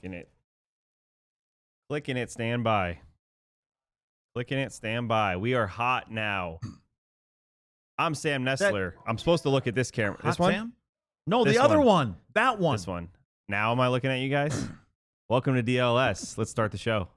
Clicking it, stand by. Clicking it, stand by. We are hot now. I'm Sam Nestler. I'm supposed to look at this camera. This one? Sam? No, This the other one. one. That one. This one. Now am I looking at you guys? Welcome to DLS. Let's start the show.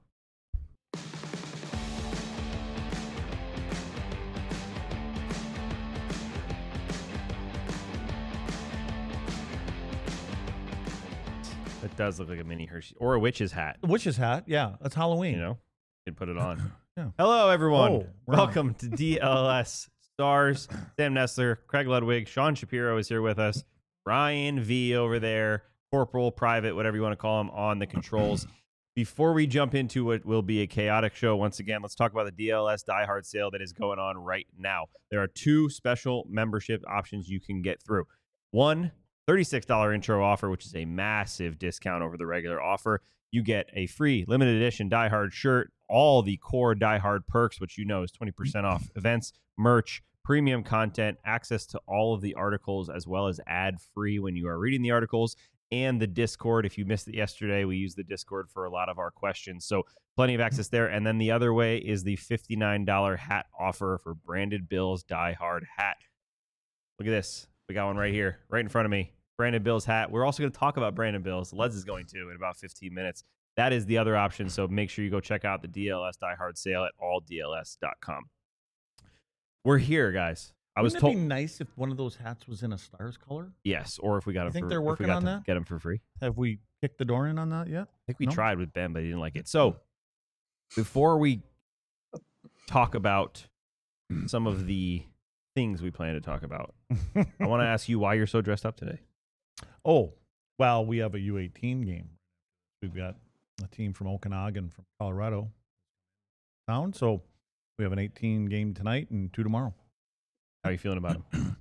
It does look like a mini Hershey or a witch's hat. Witch's hat. Yeah, that's Halloween. You know, you can put it on. Yeah. Hello, everyone. Oh, wow. Welcome to DLS Stars. Sam Nestler, Craig Ludwig, Sean Shapiro is here with us. Ryan V over there, Corporal, Private, whatever you want to call him, on the controls. Before we jump into what will be a chaotic show, once again, let's talk about the DLS Die Hard sale that is going on right now. There are two special membership options you can get through. One, $36 intro offer, which is a massive discount over the regular offer. You get a free limited edition Die Hard shirt, all the core Die Hard perks, which you know is 20% off events, merch, premium content, access to all of the articles, as well as ad-free when you are reading the articles, and the Discord. If you missed it yesterday, we use the Discord for a lot of our questions. So plenty of access there. And then the other way is the $59 hat offer for Branded Bill's Die Hard hat. Look at this. We got one right here, right in front of me. Brandon Bill's hat. We're also going to talk about Brandon Bill's. Leds is going to in about 15 minutes. That is the other option, so make sure you go check out the DLS Die Hard sale at alldls.com. We're here, guys. I was told. Wouldn't it be nice if one of those hats was in a Stars color? Yes, or if we got You them think for, they're if we working got on to that? Get them for free. Have we kicked the door in on that yet? I think we No? tried with Ben, but he didn't like it. So before we talk about some of the things we plan to talk about, I want to ask you why you're so dressed up today. Oh, well, we have a U18 game. We've got a team from Okanagan, from Colorado town. So we have an 18 game tonight and 2 tomorrow. How are you feeling about him?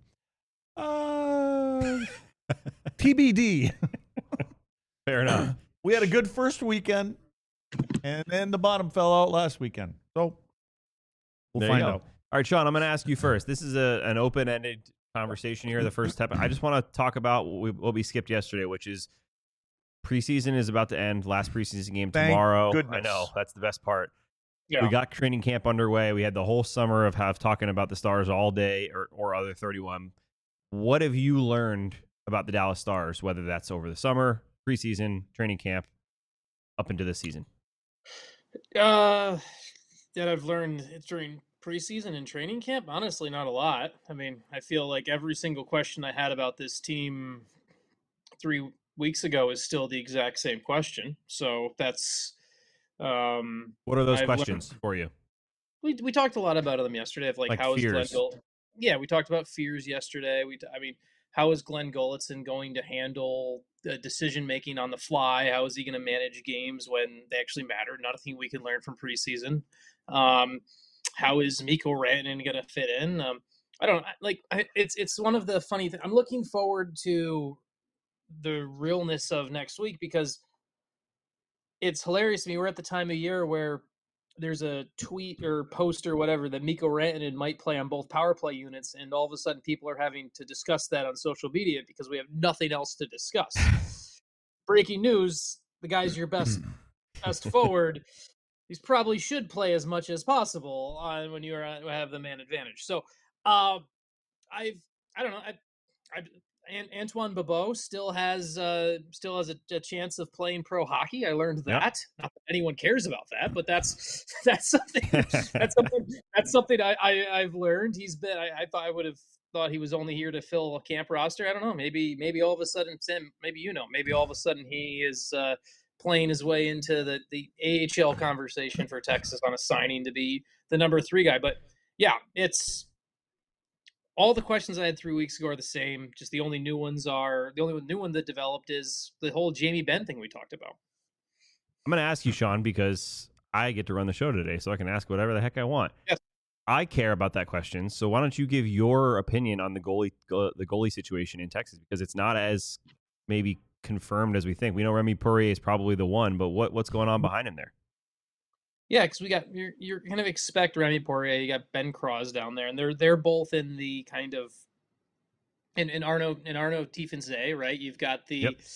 TBD. Fair enough. We had a good first weekend, and then the bottom fell out last weekend. So we'll There you find go. out. All right, Sean, I'm going to ask you first. This is an open-ended conversation here. The first step. I just want to talk about what we skipped yesterday, which is preseason is about to end. Last preseason game Thank tomorrow. goodness. I know. That's the best part. Yeah. We got training camp underway. We had the whole summer of talking about the Stars all day or other 31. What have you learned about the Dallas Stars, whether that's over the summer, preseason, training camp, up into this season? That I've learned during preseason and training camp, honestly, not a lot. I mean, I feel like every single question I had about this team 3 weeks ago is still the exact same question. So that's What are those I've questions for you? we talked a lot about them yesterday. Of Like how is Glenn fears. Yeah, we talked about fears yesterday. How is Glenn Gulletson going to handle the decision making on the fly? How is he going to manage games when they actually matter? Nothing we can learn from preseason. How is Mikko Rantanen going to fit in? I don't like. It's one of the funny things. I'm looking forward to the realness of next week because it's hilarious to me. We're at the time of year where there's a tweet or post or whatever that Mikko Rantanen might play on both power play units, and all of a sudden people are having to discuss that on social media because we have nothing else to discuss. Breaking news: the guy's your best forward. He's probably should play as much as possible when you have the man advantage. So, I don't know. Antoine Bibeau still has a chance of playing pro hockey. I learned that. Yep. Not that anyone cares about that, but that's something I've learned. He's been. I thought I would have thought he was only here to fill a camp roster. I don't know. Maybe all of a sudden, Sam. Maybe maybe all of a sudden he is playing his way into the AHL conversation for Texas on a signing to be the number 3 guy. But yeah, it's. All the questions I had 3 weeks ago are the same. Just the only new one that developed is the whole Jamie Benn thing we talked about. I'm going to ask you, Sean, because I get to run the show today, so I can ask whatever the heck I want. Yes. I care about that question, so why don't you give your opinion on the goalie situation in Texas? Because it's not as maybe confirmed as we think. We know Remy Poirier is probably the one, but what's going on behind him there? Yeah, because we got you're kind of expect Remy Poirier. You got Ben Cross down there, and they're both in the kind of in Arno Tiefensee, right? You've got the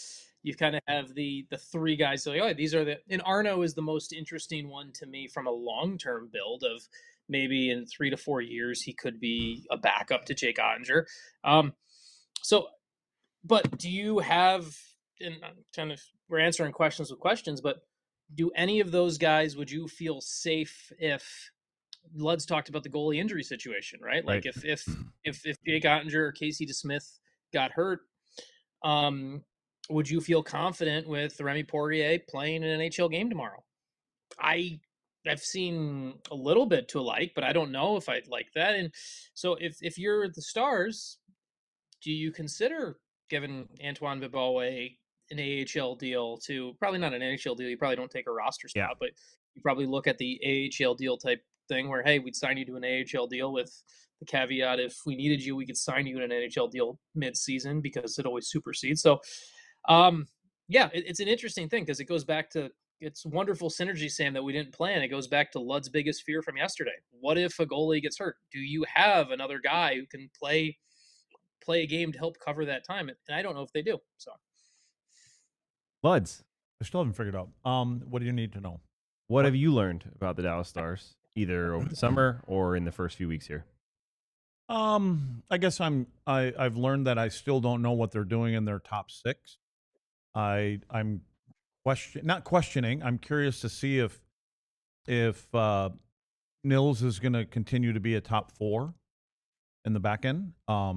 you kind of have the three guys like, oh, these are and Arno is the most interesting one to me from a long-term build of maybe in 3 to 4 years he could be a backup to Jake Ottinger. So but do you have, and kind of we're answering questions with questions, but do any of those guys, would you feel safe if Lud's talked about the goalie injury situation, right? Like Right. if Jake Ottinger or Casey DeSmith got hurt, would you feel confident with Remy Poirier playing an NHL game tomorrow? I've seen a little bit to like, but I don't know if I'd like that. And so if you're the Stars, do you consider giving Antoine Bibeau an AHL deal to, probably not an NHL deal, you probably don't take a roster spot, Yeah. but you probably look at the AHL deal type thing where, hey, we'd sign you to an AHL deal with the caveat if we needed you, we could sign you in an NHL deal mid-season because it always supersedes. So, it's an interesting thing because it goes back to, it's wonderful synergy, Sam, that we didn't plan. It goes back to Lud's biggest fear from yesterday. What if a goalie gets hurt? Do you have another guy who can play a game to help cover that time? And I don't know if they do. So Luds, I still haven't figured out. What do you need to know? what have you learned about the Dallas Stars, either over the summer or in the first few weeks here? I guess I've learned that I still don't know what they're doing in their top six. I'm not questioning. I'm curious to see if Nils is going to continue to be a top four in the back end.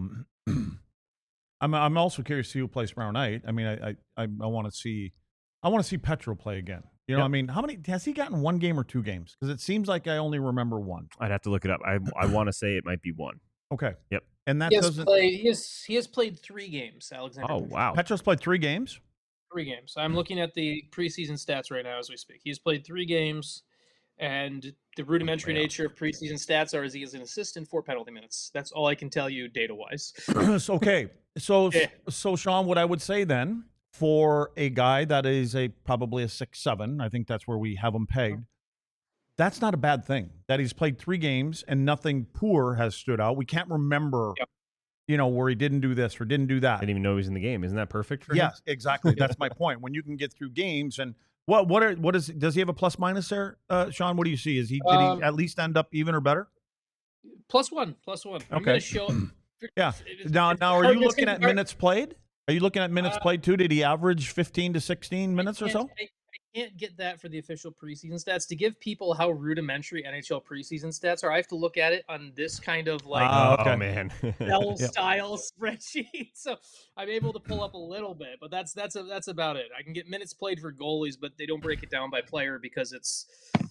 I'm also curious to see who plays tomorrow night. I mean, I want to see Petro play again. You know, Yep. I mean, how many has he gotten? One game or two games? Because it seems like I only remember one. I'd have to look it up. I want to say it might be one. Okay. Yep. And that he has doesn't. he has played 3 games, Alexander. Oh, wow. Petro's played 3 games. 3 games. I'm looking at the preseason stats right now as we speak. He's played 3 games, and the rudimentary Wow. nature of preseason stats are as he is an assist and 4 penalty minutes. That's all I can tell you data-wise. Okay. So, Yeah. so Sean, what I would say then, for a guy that is probably a 6'7", I think that's where we have him pegged. That's not a bad thing. That he's played 3 games and nothing poor has stood out. We can't remember, where he didn't do this or didn't do that. I didn't even know he was in the game. Isn't that perfect for him? Yes, exactly. That's my point. When you can get through games and does he have a plus minus there, Sean? What do you see? Did he at least end up even or better? +1. I'm going to show. Yeah. Now, are you looking at minutes played? Are you looking at minutes played too? Did he average 15 to 16 minutes or so? I can't get that for the official preseason stats. To give people how rudimentary NHL preseason stats are, I have to look at it on this kind of like Oh, man. style spreadsheet. So I'm able to pull up a little bit, but that's about it. I can get minutes played for goalies, but they don't break it down by player because it's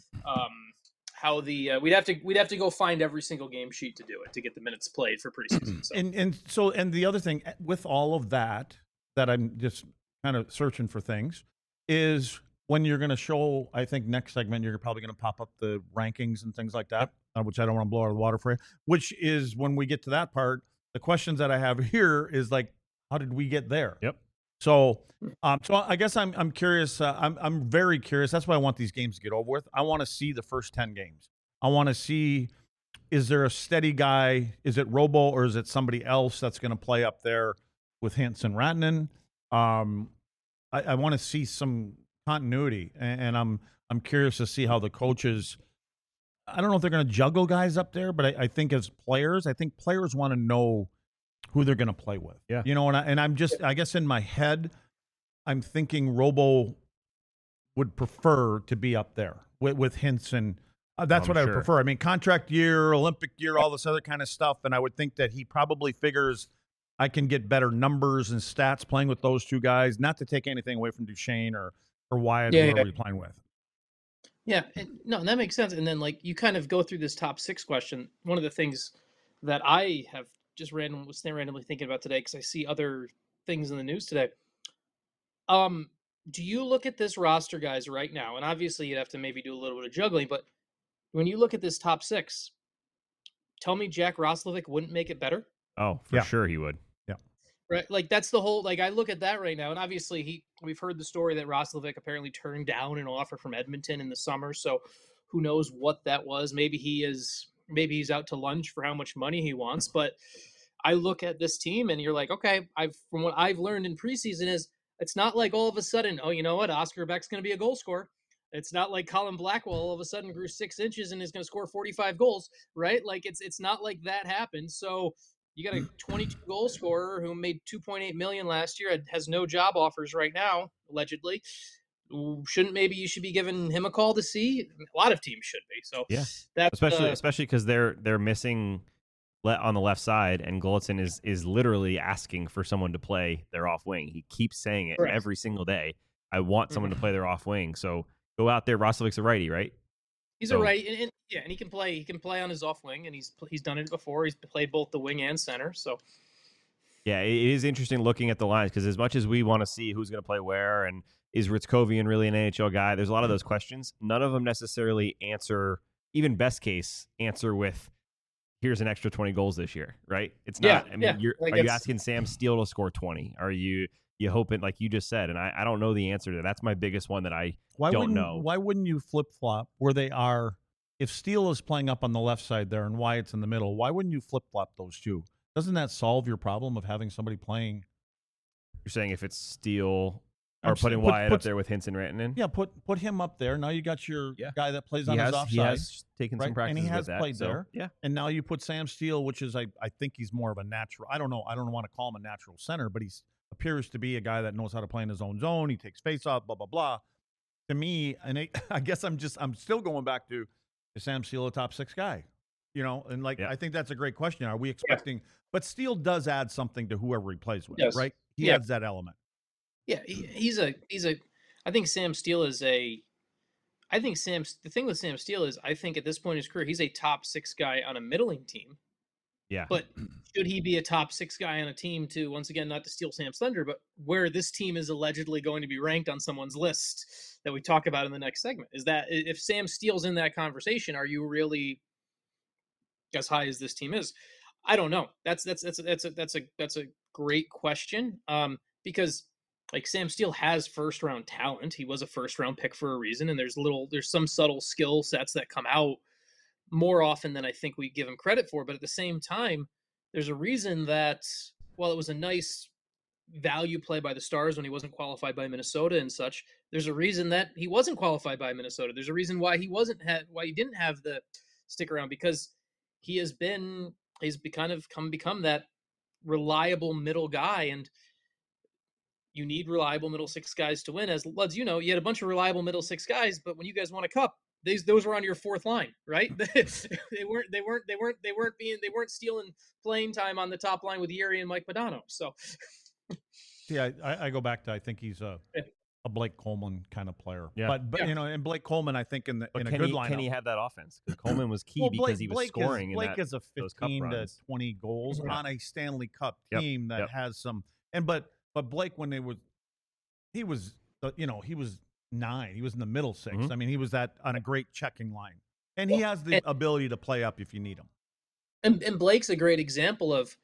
how the we'd have to go find every single game sheet to do it to get the minutes played for preseason. So. And the other thing with all of that I'm just kind of searching for things is when you're going to show, I think next segment you're probably going to pop up the rankings and things like that, which I don't want to blow out of the water for you. Which is when we get to that part, the questions that I have here is like, how did we get there? Yep. So I guess I'm curious. I'm very curious. That's why I want these games to get over with. I want to see the first 10 games. I want to see, is there a steady guy? Is it Robo or is it somebody else that's going to play up there with Hintz and Rantanen? I want to see some continuity, and I'm curious to see how the coaches. I don't know if they're going to juggle guys up there, but I think as players, players want to know who they're going to play with. Yeah. I'm just, I guess in my head, I'm thinking Robo would prefer to be up there with Hintz, and that's what I would prefer. I mean, contract year, Olympic year, all this other kind of stuff, and I would think that he probably figures I can get better numbers and stats playing with those two guys, not to take anything away from Duchesne or Wyatt or whoever you're playing with. Yeah, and that makes sense. And then, like, you kind of go through this top 6 question. One of the things that I have just randomly thinking about today, because I see other things in the news today. Do you look at this roster, guys, right now? And obviously, you'd have to maybe do a little bit of juggling. But when you look at this top 6, tell me Jack Roslovic wouldn't make it better? Oh, for sure he would. Yeah. Right, like that's the whole. Like I look at that right now, and obviously we've heard the story that Roslovic apparently turned down an offer from Edmonton in the summer. So who knows what that was? Maybe he's out to lunch for how much money he wants. But I look at this team, and you're like, okay, from what I've learned in preseason is It's not like all of a sudden, oh, you know what, Oscar Beck's going to be a goal scorer. It's not like Colin Blackwell all of a sudden grew 6 inches and is going to score 45 goals, right? Like it's not like that happened. So you got a 22 goal scorer who made 2.8 million last year, has no job offers right now, allegedly. Shouldn't maybe you should be giving him a call to see? A lot of teams should be. So Yeah, that's especially because they're missing on the left side, and Golitzin is literally asking for someone to play their off wing. He keeps saying it correct. every single day. I want someone to play their off wing. So go out there. Rostovic's a righty, right? He's a right, and yeah, and he can play. He can play on his off wing, and he's done it before. He's played both the wing and center. So yeah, it is interesting looking at the lines because as much as we want to see who's going to play where and is Ritzkovian really an NHL guy, there's a lot of those questions. None of them necessarily answer, even best case, answer with here's an extra 20 goals this year, right? It's not. I mean, are you asking Sam Steele to score 20? Are you hoping, like you just said? And I don't know the answer to that. That's my biggest one that I don't know. Why wouldn't you flip flop where they are? If Steele is playing up on the left side there and Wyatt's in the middle, why wouldn't you flip flop those two? Doesn't that solve your problem of having somebody playing? You're saying if it's Steele or putting Wyatt up there with Hintz and Rantanen? Yeah, put him up there. Now you got your guy that plays on his offside. He has taken some practice, and he has played that, there. Yeah, and now you put Sam Steele, which is I think he's more of a natural. I don't know. I don't want to call him a natural center, but he appears to be a guy that knows how to play in his own zone. He takes face off. Blah blah blah. To me, and I guess I'm still going back to, is Sam Steele a top 6 guy? You know, and I think that's a great question. Are we expecting? Yeah. But Steele does add something to whoever he plays with, right? He adds that element. Yeah, he's a. I think Sam Steele is a. I think the thing with Sam Steele is, I think at this point in his career, he's a top 6 guy on a middling team. Yeah. But should he be a top 6 guy on a team to, once again, not to steal Sam's thunder, but where this team is allegedly going to be ranked on someone's list that we talk about in the next segment, is that if Sam Steele's in that conversation, are you really as high as this team is? I don't know. That's a great question. Because like Sam Steele has first round talent. He was a first round pick for a reason, and there's some subtle skill sets that come out more often than I think we give him credit for. But at the same time, there's a reason that while it was a nice value play by the Stars when he wasn't qualified by Minnesota and such, there's a reason that he wasn't qualified by Minnesota. There's a reason why he didn't have the stick around, because he's become that reliable middle guy, and you need reliable middle 6 guys to win. As Luds, you had a bunch of reliable middle 6 guys, but when you guys won a cup, those were on your 4th line, right? they weren't stealing playing time on the top line with Yuri and Mike Modano. So, yeah, I go back to, I think he's a Blake Coleman kind of player. Yeah. But and Blake Coleman, I think in a good lineup. Can he have that offense? Because Coleman was key because he was scoring. Blake is a 15 to 20 goals on a Stanley Cup team that has some. But Blake, when he was 9. He was in the middle 6. Mm-hmm. I mean, he was on a great checking line, and he has the ability to play up if you need him. And Blake's a great example of.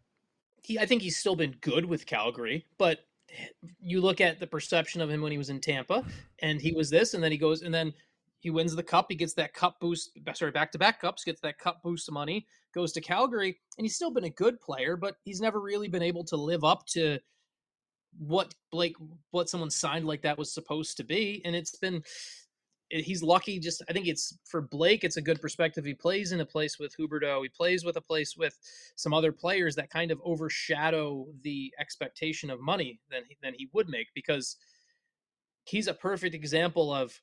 I think he's still been good with Calgary, but you look at the perception of him when he was in Tampa, and he was this, and then he goes, and then he wins the cup. He gets that cup boost. Sorry, back-to-back cups. Gets that cup boost of money. Goes to Calgary, and he's still been a good player, but he's never really been able to live up to what someone signed like that was supposed to be. And he's lucky. Just, I think it's for Blake, it's a good perspective. He plays in a place with Huberdeau. He plays with a place with some other players that kind of overshadow the expectation of money than he would make, because he's a perfect example of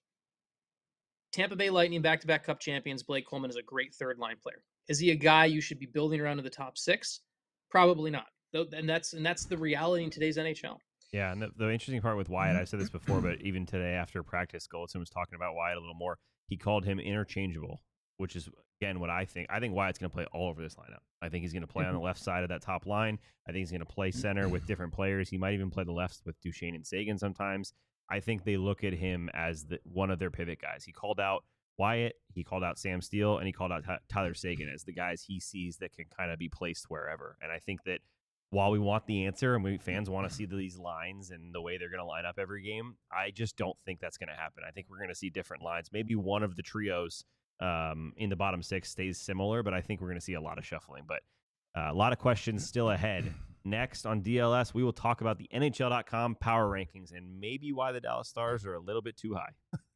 Tampa Bay Lightning back-to-back cup champions. Blake Coleman is a great 3rd line player. Is he a guy you should be building around to the top 6? Probably not. And that's the reality in today's NHL. Yeah, and the interesting part with Wyatt, I've said this before, but even today after practice, Golitzin was talking about Wyatt a little more. He called him interchangeable, which is, again, what I think. I think Wyatt's going to play all over this lineup. I think he's going to play on the left side of that top line. I think he's going to play center with different players. He might even play the left with Duchesne and Sagan sometimes. I think they look at him as one of their pivot guys. He called out Wyatt, he called out Sam Steele, and he called out Tyler Sagan as the guys he sees that can kind of be placed wherever. And I think that while we want the answer and fans want to see these lines and the way they're going to line up every game, I just don't think that's going to happen. I think we're going to see different lines. Maybe one of the trios in the bottom 6 stays similar, but I think we're going to see a lot of shuffling. But a lot of questions still ahead Next on DLS, we will talk about the NHL.com power rankings and maybe why the Dallas Stars are a little bit too high.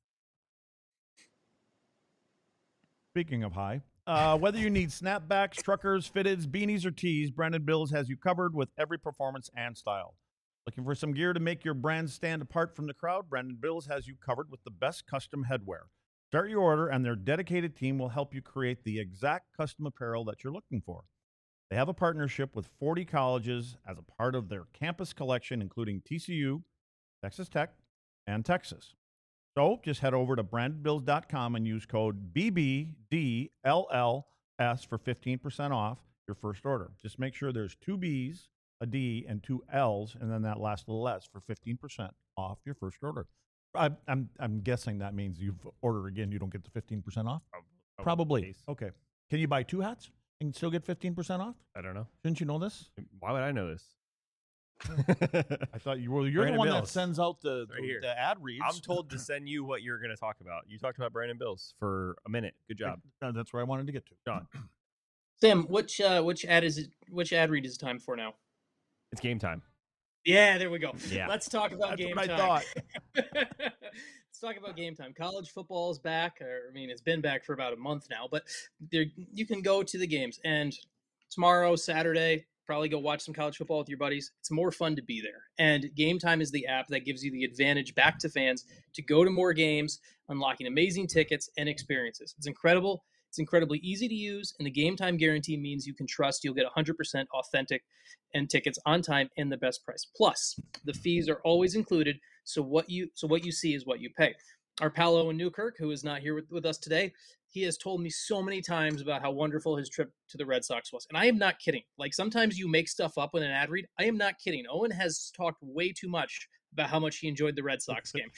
Speaking of high, whether you need snapbacks, truckers, fitteds, beanies, or tees, Brandon Bills has you covered with every performance and style. Looking for some gear to make your brand stand apart from the crowd? Brandon Bills has you covered with the best custom headwear. Start your order, and their dedicated team will help you create the exact custom apparel that you're looking for. They have a partnership with 40 colleges as a part of their campus collection, including TCU, Texas Tech, and Texas. So just head over to brandonbills.com and use code BBDLLS for 15% off your first order. Just make sure there's 2 B's, a D, and 2 L's, and then that last little S for 15% off your first order. I'm guessing that means you've ordered again, you don't get the 15% off? Probably. Okay. Can you buy 2 hats and still get 15% off? I don't know. Shouldn't you know this? Why would I know this? I thought you're Brandon the one Bills. that sends out the ad reads. I'm told to send you what you're going to talk about. You talked about Brandon Bills for a minute. Good job. That's where I wanted to get to. John. Sam, which ad is it? Which ad read is it time for now? It's game time. Yeah, there we go. Yeah. Let's talk about That's game what I time. thought. Let's talk about game time. College football is back. I mean, it's been back for about a month now, but you can go to the games. And tomorrow, Saturday, probably go watch some college football with your buddies. It's more fun to be there. And Game Time is the app that gives you the advantage back to fans to go to more games, unlocking amazing tickets and experiences. It's incredible. It's incredibly easy to use, and the Game Time guarantee means you can trust you'll get 100% authentic and tickets on time and the best price. Plus, the fees are always included, so what you see is what you pay. Our pal Owen Newkirk, who is not here with us today, he has told me so many times about how wonderful his trip to the Red Sox was. And I am not kidding. Like, sometimes you make stuff up in an ad read. I am not kidding. Owen has talked way too much about how much he enjoyed the Red Sox game.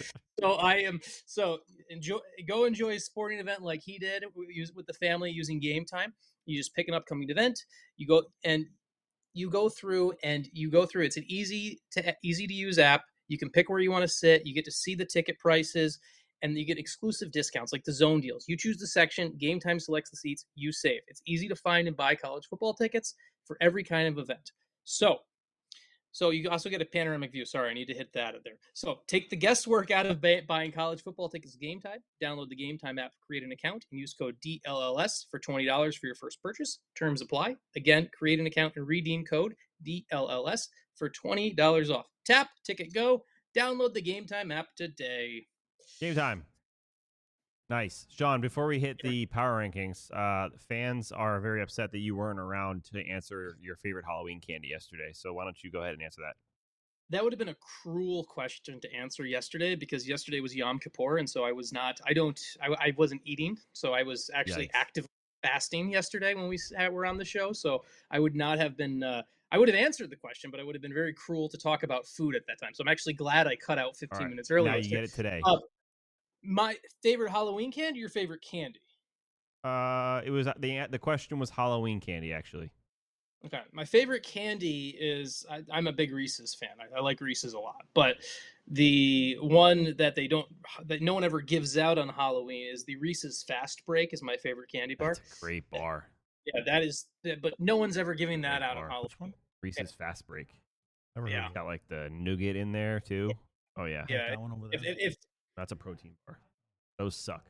Go enjoy a sporting event like he did with the family using Game Time. You just pick an upcoming event. You go through. It's an easy to use app. You can pick where you want to sit. You get to see the ticket prices, and you get exclusive discounts like the zone deals. You choose the section, Game Time selects the seats, you save. It's easy to find and buy college football tickets for every kind of event. So you also get a panoramic view. Sorry, I need to hit that out there. So take the guesswork out of buying college football tickets Game Time. Download the Game Time app, create an account, and use code DLLS for $20 for your first purchase. Terms apply. Again, create an account and redeem code DLLS for $20 off. Tap, ticket, go. Download the Game Time app today. Game time. Nice. Sean, before we hit the power rankings, fans are very upset that you weren't around to answer your favorite Halloween candy yesterday. So why don't you go ahead and answer that? That would have been a cruel question to answer yesterday, because yesterday was Yom Kippur, and so I wasn't eating, so I was actually actively fasting yesterday when we were on the show. So I would not have been. I would have answered the question, but I would have been very cruel to talk about food at that time. So I'm actually glad I cut out 15 minutes earlier. Now you get it today. My favorite Halloween candy, your favorite candy? It was the question was Halloween candy, actually. Okay, my favorite candy is I'm a big Reese's fan. I like Reese's a lot, but the one that no one ever gives out on Halloween is the Reese's Fast Break. Is my favorite candy bar. That's a great bar. Yeah, that is. But no one's ever giving that out on Halloween. Which one? Reese's Fast Break. Yeah, got like the nougat in there too. Oh yeah. Yeah. That one over there. If That's a protein bar. Those suck.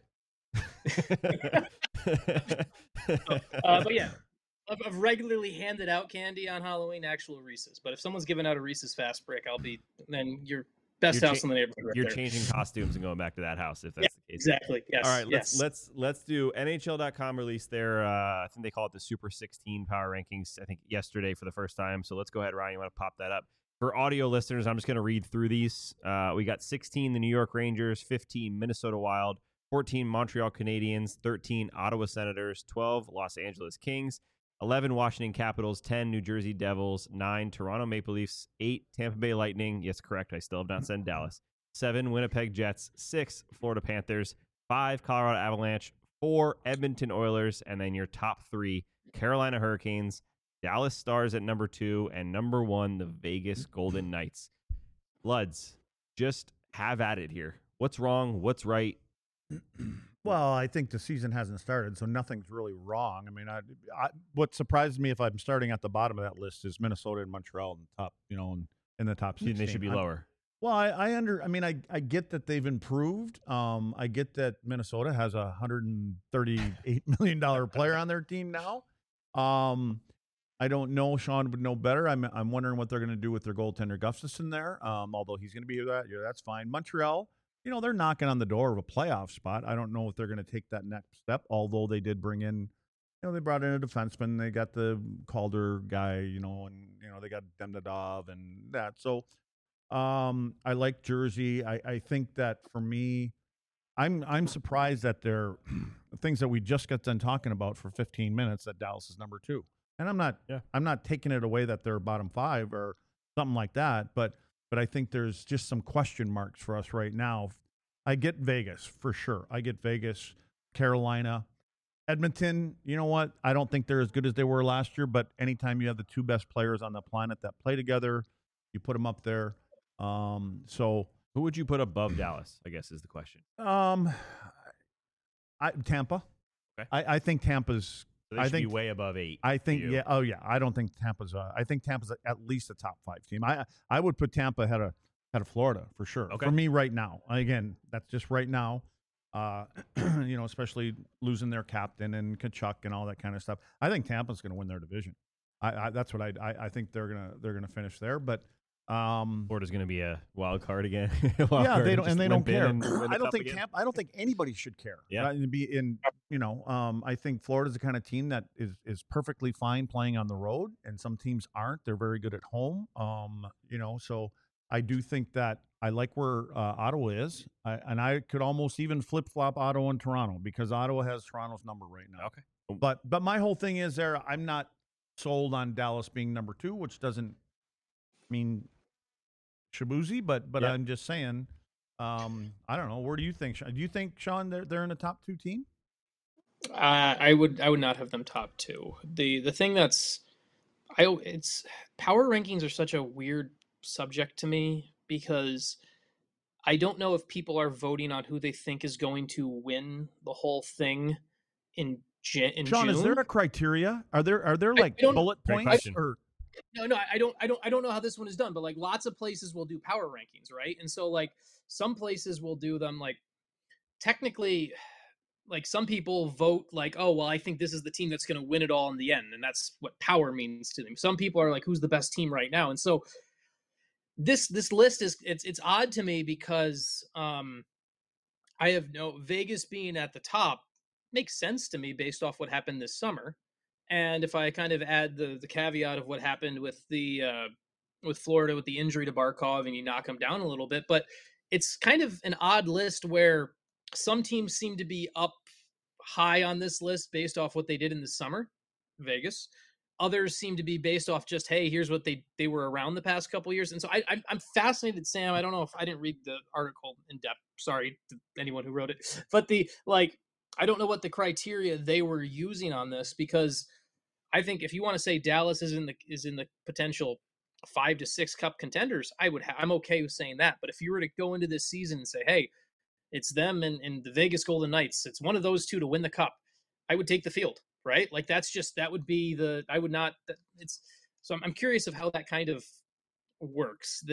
but yeah, I've regularly handed out candy on Halloween, actual Reese's. But if someone's giving out a Reese's Fast Break, then you're best house in the neighborhood. Right you're there. changing costumes and going back to that house if that's the case. Exactly. Yes. All right. Yes. Let's do NHL.com released their I think they call it the Super 16 power rankings. I think yesterday for the first time. So let's go ahead, Ryan. You want to pop that up? For audio listeners, I'm just going to read through these. We got 16 the New York Rangers, 15 Minnesota Wild, 14 Montreal Canadiens, 13 Ottawa Senators, 12 Los Angeles Kings, 11 Washington Capitals, 10 New Jersey Devils, 9 Toronto Maple Leafs, 8 Tampa Bay Lightning. Yes, correct. I still have not said Dallas. 7 Winnipeg Jets, 6 Florida Panthers, 5 Colorado Avalanche, 4 Edmonton Oilers, and then your top 3 Carolina Hurricanes, Dallas Stars at number 2, and number 1, the Vegas Golden Knights. Bloods, just have at it here. What's wrong? What's right? Well, I think the season hasn't started, so nothing's really wrong. I mean, what surprised me if I'm starting at the bottom of that list is Minnesota and Montreal in the top, in the top 16. They should be lower. Well, I mean, I get that they've improved. I get that Minnesota has a $138 million player on their team now. I don't know. Sean would know better. I'm wondering what they're going to do with their goaltender Gustafsson there. Although he's going to be that year, that's fine. Montreal, they're knocking on the door of a playoff spot. I don't know if they're going to take that next step. Although they did bring in, they brought in a defenseman. They got the Calder guy, and they got Demidov and that. So. I like Jersey. I think that for me, I'm surprised that they're things that we just got done talking about for 15 minutes that Dallas is number 2. And I'm not taking it away that they're bottom 5 or something like that, but I think there's just some question marks for us right now. I get Vegas for sure. I get Vegas, Carolina, Edmonton. You know what? I don't think they're as good as they were last year, but anytime you have the 2 best players on the planet that play together, you put them up there. So who would you put above Dallas, I guess is the question. Tampa. Okay. I think Tampa's. So they should be way above 8. I think yeah. Oh yeah. I don't think Tampa's. I think Tampa's at least a top 5 team. I would put Tampa ahead of Florida for sure. Okay. For me right now. Again, that's just right now. Especially losing their captain and Kachuk and all that kind of stuff. I think Tampa's going to win their division. That's what I think they're gonna finish there, but. Florida's going to be a wild card again. They don't care. I I don't think anybody should care. Yeah. I think Florida's the kind of team that is perfectly fine playing on the road, and some teams aren't. They're very good at home. So I do think that I like where Ottawa is, and I could almost even flip flop Ottawa and Toronto because Ottawa has Toronto's number right now. Okay. But my whole thing is I'm not sold on Dallas being number 2, which doesn't mean Shabuzi, but yeah. I'm just saying, I don't know. Where do you think? Do you think, Sean, they're in the top 2 team? I would not have them top 2. The thing it's power rankings are such a weird subject to me because I don't know if people are voting on who they think is going to win the whole thing in Sean, June. Is there a criteria? Are there like bullet points or? No, I don't know how this one is done, but like lots of places will do power rankings, right? And so like some places will do them like technically, like some people vote like, oh, well, I think this is the team that's going to win it all in the end, and that's what power means to them. Some people are like, who's the best team right now? And so this list is it's odd to me because I have Vegas being at the top makes sense to me based off what happened this summer. And if I kind of add the caveat of what happened with with Florida with the injury to Barkov and you knock him down a little bit, but it's kind of an odd list where some teams seem to be up high on this list based off what they did in the summer, Vegas. Others seem to be based off just, hey, here's what they were around the past couple of years. And so I'm fascinated, Sam. I don't know if I didn't read the article in depth. Sorry to anyone who wrote it, but I don't know what the criteria they were using on this because I think if you want to say Dallas is in the potential 5 to 6 cup contenders, I'm okay with saying that. But if you were to go into this season and say, hey, it's them and the Vegas Golden Knights, it's one of those 2 to win the cup, I would take the field, right? Like that would be so I'm curious of how that kind of works.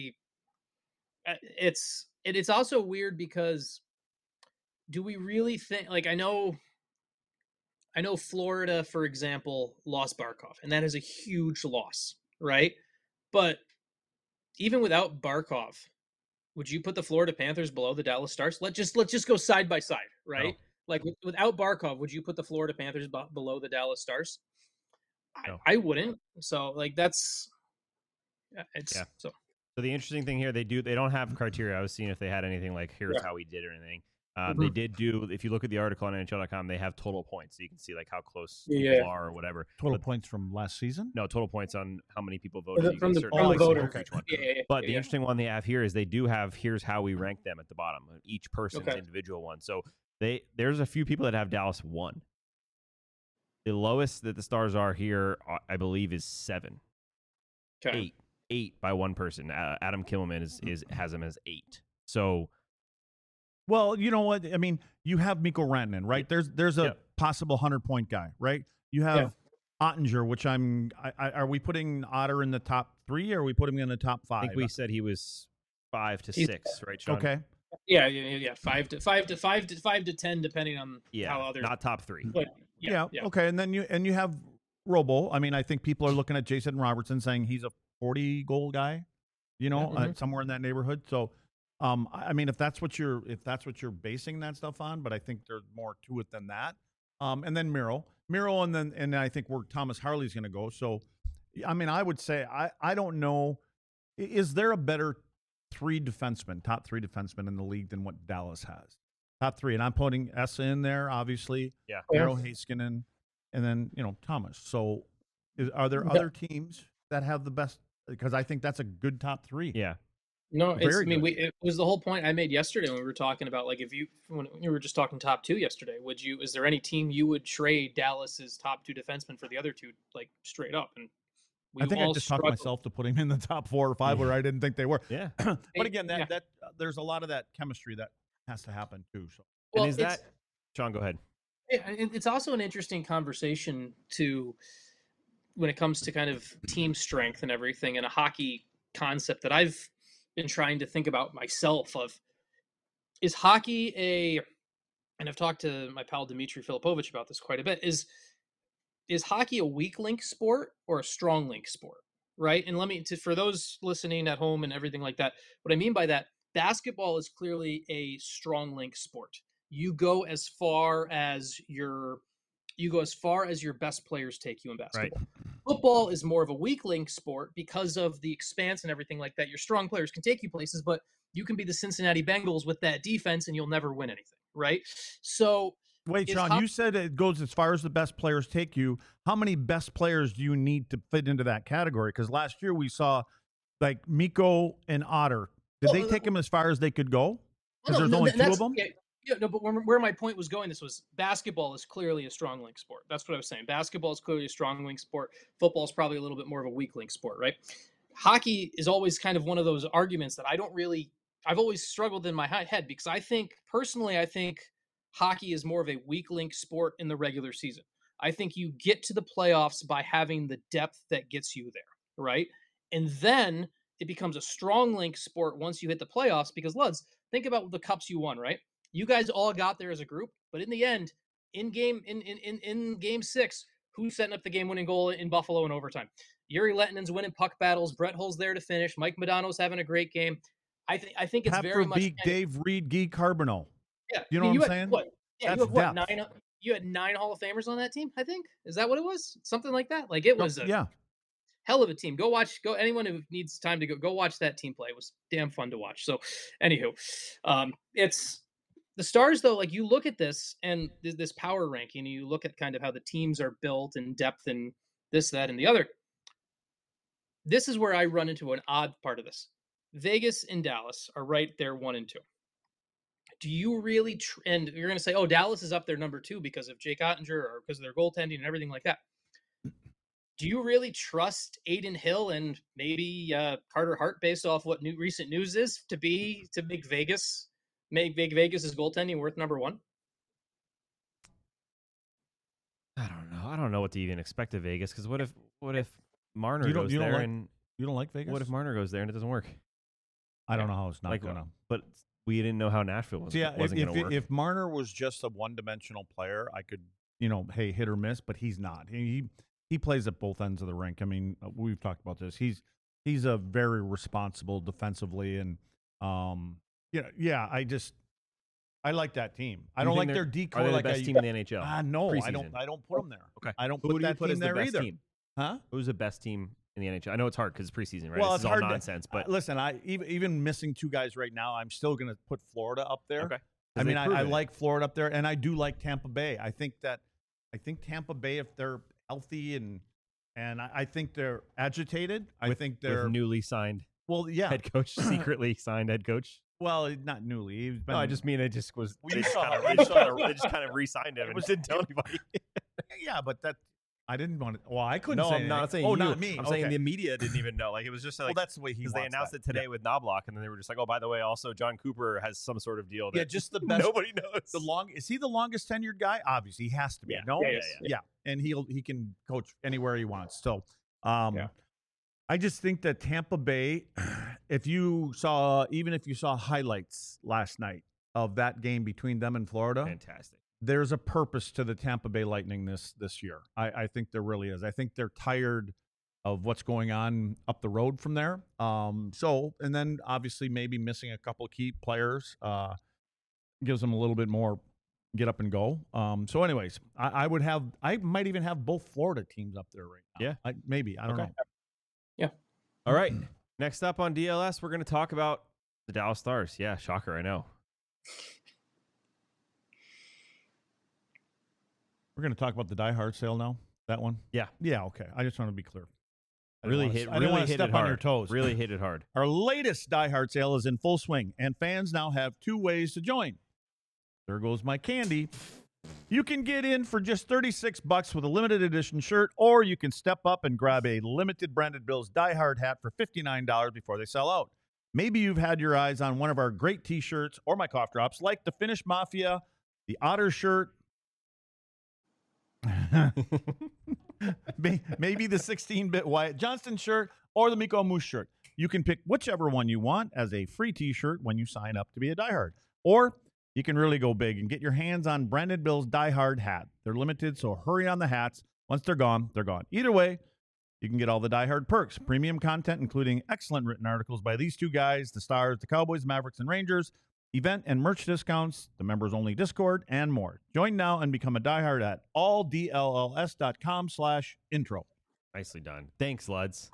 It's also weird because do we really think, like, I know Florida, for example, lost Barkov, and that is a huge loss, right? But even without Barkov, would you put the Florida Panthers below the Dallas Stars? Let's just go side by side, right? No. Like without Barkov, would you put the Florida Panthers below the Dallas Stars? No. I wouldn't. So like So the interesting thing here, they don't have criteria. I was seeing if they had anything like here's how we did or anything. They did do, if you look at the article on NHL.com, they have total points. So you can see like how close people are or whatever. Total points from last season? No, total points on how many people voted. From the voter. Okay. But the interesting one they have here is they do have, here's how we rank them at the bottom. Each person's individual one. So there's a few people that have Dallas 1. The lowest that the Stars are here, I believe, is 7. Okay. 8 by one person. Adam Kimmelman has them as 8. So... Well, you know what? I mean, you have Mikko Rantanen, right? There's a Yeah. possible 100-point guy, right? You have Ottinger, which are we putting Otter in the top 3 or are we putting him in the top 5? I think we said he was 5 to 6, right, Sean? Okay. Yeah. 5 to 10, depending on Yeah, how others. not top 3. But yeah. Okay. And then you have Robo. I mean, I think people are looking at Jason Robertson saying he's a 40-goal guy, somewhere in that neighborhood. So, I mean, if that's what you're basing that stuff on, but I think there's more to it than that. And then Miro, and I think where Thomas Harley's going to go. So, I mean, I would say I don't know. Is there a better top 3 defensemen in the league than what Dallas has? Top 3, and I'm putting Essa in there, obviously. Yeah. Miro Heiskanen, and then Thomas. So, are there other teams that have the best? Because I think that's a good top 3. Yeah. No, Very good. it was the whole point I made yesterday when we were talking about, like, when we were just talking top 2 yesterday, is there any team you would trade Dallas's top 2 defensemen for the other 2, like, straight up? And I think I just talked myself to putting him in the top 4 or 5 where I didn't think they were. Yeah. But again, that there's a lot of that chemistry that has to happen too. So, and is that Sean? Go ahead. It's also an interesting conversation when it comes to kind of team strength and everything, and a hockey concept that I've been trying to think about myself of, is hockey and I've talked to my pal Dmitry Filipovich about this quite a bit, is hockey a weak link sport or a strong link sport, right? And for those listening at home and everything like that, what I mean by that, basketball is clearly a strong link sport. You go as far as your best players take you in basketball. Right. Football is more of a weak link sport because of the expanse and everything like that. Your strong players can take you places, but you can be the Cincinnati Bengals with that defense and you'll never win anything, right? So wait, Sean, you said it goes as far as the best players take you. How many best players do you need to fit into that category? Because last year we saw like Mikko and Otter. Did they take them as far as they could go? Because there's only 2 of them? Yeah, no, but where my point was going, this was basketball is clearly a strong link sport. That's what I was saying. Basketball is clearly a strong link sport. Football is probably a little bit more of a weak link sport, right? Hockey is always kind of one of those arguments that I've always struggled in my head, because I think hockey is more of a weak link sport in the regular season. I think you get to the playoffs by having the depth that gets you there, right? And then it becomes a strong link sport once you hit the playoffs, because Luds, think about the cups you won, right? You guys all got there as a group, but in the end, in game 6, who's setting up the game-winning goal in Buffalo in overtime? Yuri Lettinen's winning puck battles. Brett Hull's there to finish. Mike Modano's having a great game. I think it's very much Dave Reed, Guy Carbonneau. Yeah, you know what I'm saying? You had 9 Hall of Famers on that team. I think, is that what it was? Something like that. Like, it was hell of a team. Anyone who needs time to go watch that team play. It was damn fun to watch. So, anywho, it's. The Stars, though, like, you look at this and this power ranking, and you look at kind of how the teams are built and depth and this, that, and the other. This is where I run into an odd part of this. Vegas and Dallas are right there 1 and 2. Do you really, and you're going to say, oh, Dallas is up there number 2 because of Jake Ottinger or because of their goaltending and everything like that. Do you really trust Aiden Hill and maybe Carter Hart, based off what recent news is, to make Vegas' goaltending worth number 1? I don't know. I don't know what to even expect of Vegas, because what if Marner goes there and you don't like Vegas? What if Marner goes there and it doesn't work? I don't know how it's not going to. But we didn't know how Nashville wasn't going to work. If Marner was just a one-dimensional player, I could, hey, hit or miss. But he's not. He plays at both ends of the rink. I mean, we've talked about this. He's a very responsible defensively, and I like that team. I don't like their decoy. Are they the best team in the NHL? No, preseason? I don't put them there. Okay, I don't put that team there either. Huh? Who's the best team in the NHL? I know it's hard because it's preseason, right? Well, it's all nonsense. But listen, even missing 2 guys right now, I'm still going to put Florida up there. Okay. I mean, I like Florida up there, and I do like Tampa Bay. I think Tampa Bay, if they're healthy and I think they're agitated. I think they're with newly signed. Well, yeah, head coach, secretly signed head coach. Well, not newly. No, I just mean it just was. They just kind of re-signed him and didn't tell anybody. Yeah, but that I didn't want to. Well, I couldn't No, say I'm not anything. saying Oh, you. not me. I'm Okay. saying the media didn't even know. Like, it was just like, well, that's the way he because wants they announced that. it today with Knobloch, and then they were just like, oh, by the way, also John Cooper has some sort of deal that Yeah, just the best. nobody knows. Is he the longest tenured guy? Obviously, he has to be. Yeah. No, Yeah, yeah, and he can coach anywhere he wants. So, Yeah. I just think that Tampa Bay, if you saw highlights last night of that game between them and Florida, Fantastic. there's a purpose to the Tampa Bay Lightning this year. I think there really is. I think they're tired of what's going on up the road from there. And then obviously maybe missing a couple of key players gives them a little bit more get up and go. So anyways, I might even have both Florida teams up there right now. Yeah. I don't know. Yeah. All right. Next up on DLS, we're going to talk about the Dallas Stars. Yeah, shocker, I know. We're going to talk about the Die Hard sale now. That one. Yeah. Yeah. Okay. I just want to be clear. I Really didn't hit wanna it step hard. on your toes. Really hit it hard. Our latest Die Hard sale is in full swing, and fans now have 2 ways to join. There goes my candy. You can get in for just $36 with a limited edition shirt, or you can step up and grab a limited Branded Bills Die Hard hat for $59 before they sell out. Maybe you've had your eyes on one of our great t-shirts or my cough drops, like the Finnish Mafia, the Otter shirt, maybe the 16-bit Wyatt Johnston shirt, or the Miko Moose shirt. You can pick whichever one you want as a free t-shirt when you sign up to be a Die Hard. Or you can really go big and get your hands on Branded Bill's Die Hard hat. They're limited, so hurry on the hats. Once they're gone, they're gone. Either way, you can get all the Die Hard perks, premium content, including excellent written articles by these 2 guys, the Stars, the Cowboys, Mavericks, and Rangers, event and merch discounts, the members-only Discord, and more. Join now and become a Die Hard at alldlls.com/intro. Nicely done. Thanks, Luds.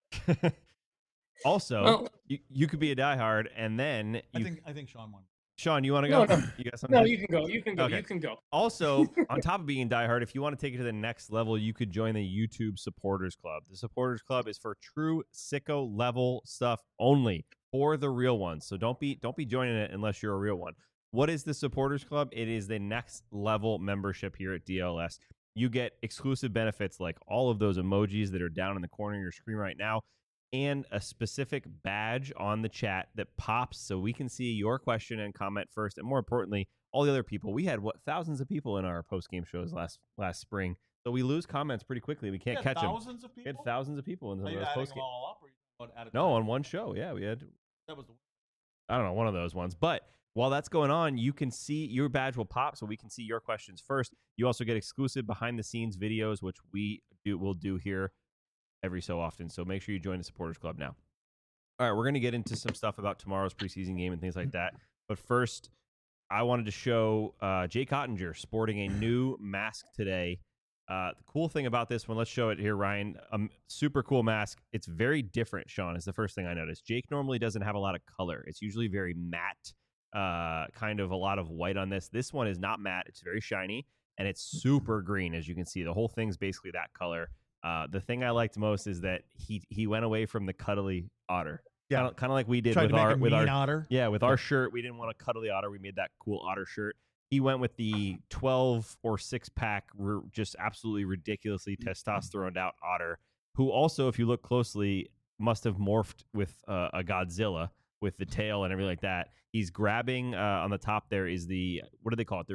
Also, Well- you could be a diehard, and then I think Sean won. Sean, you want to go? No. You got something? No, you can go. You can go. Okay. You can go. Also, on top of being diehard, if you want to take it to the next level, you could join the YouTube Supporters Club. The Supporters Club is for true sicko level stuff only, for the real ones. So don't be joining it unless you're a real one. What is the Supporters Club? It is the next level membership here at DLS. You get exclusive benefits like all of those emojis that are down in the corner of your screen right now, and a specific badge on the chat that pops so we can see your question and comment first, and more importantly, all the other people. We had thousands of people in our post-game shows last spring, so we lose comments pretty quickly. We can't catch them. Thousands of We people? had thousands of people in some of those post-game. At No, on one show. Yeah, we had. That was the I don't know, one of those ones. But while that's going on, you can see your badge will pop so we can see your questions first. You also get exclusive behind-the-scenes videos, which we'll do here every so often. So make sure you join the Supporters Club now. All right, we're going to get into some stuff about tomorrow's preseason game and things like that. But first, I wanted to show Jake Ottinger sporting a new mask today. The cool thing about this one, let's show it here, Ryan. Super cool mask. It's very different, Sean, is the first thing I noticed. Jake normally doesn't have a lot of color. It's usually very matte, kind of a lot of white on this. This one is not matte. It's very shiny, and it's super green, as you can see. The whole thing's basically that color. The thing I liked most is that he went away from the cuddly otter. Yeah. Kind of like we did Tried with to make our a mean otter. with our shirt. We didn't want a cuddly otter. We made that cool otter shirt. He went with the 12 or 6-pack, just absolutely ridiculously testosteroned out otter, who also, if you look closely, must have morphed with a Godzilla with the tail and everything like that. He's grabbing on the top there is the, what do they call it? The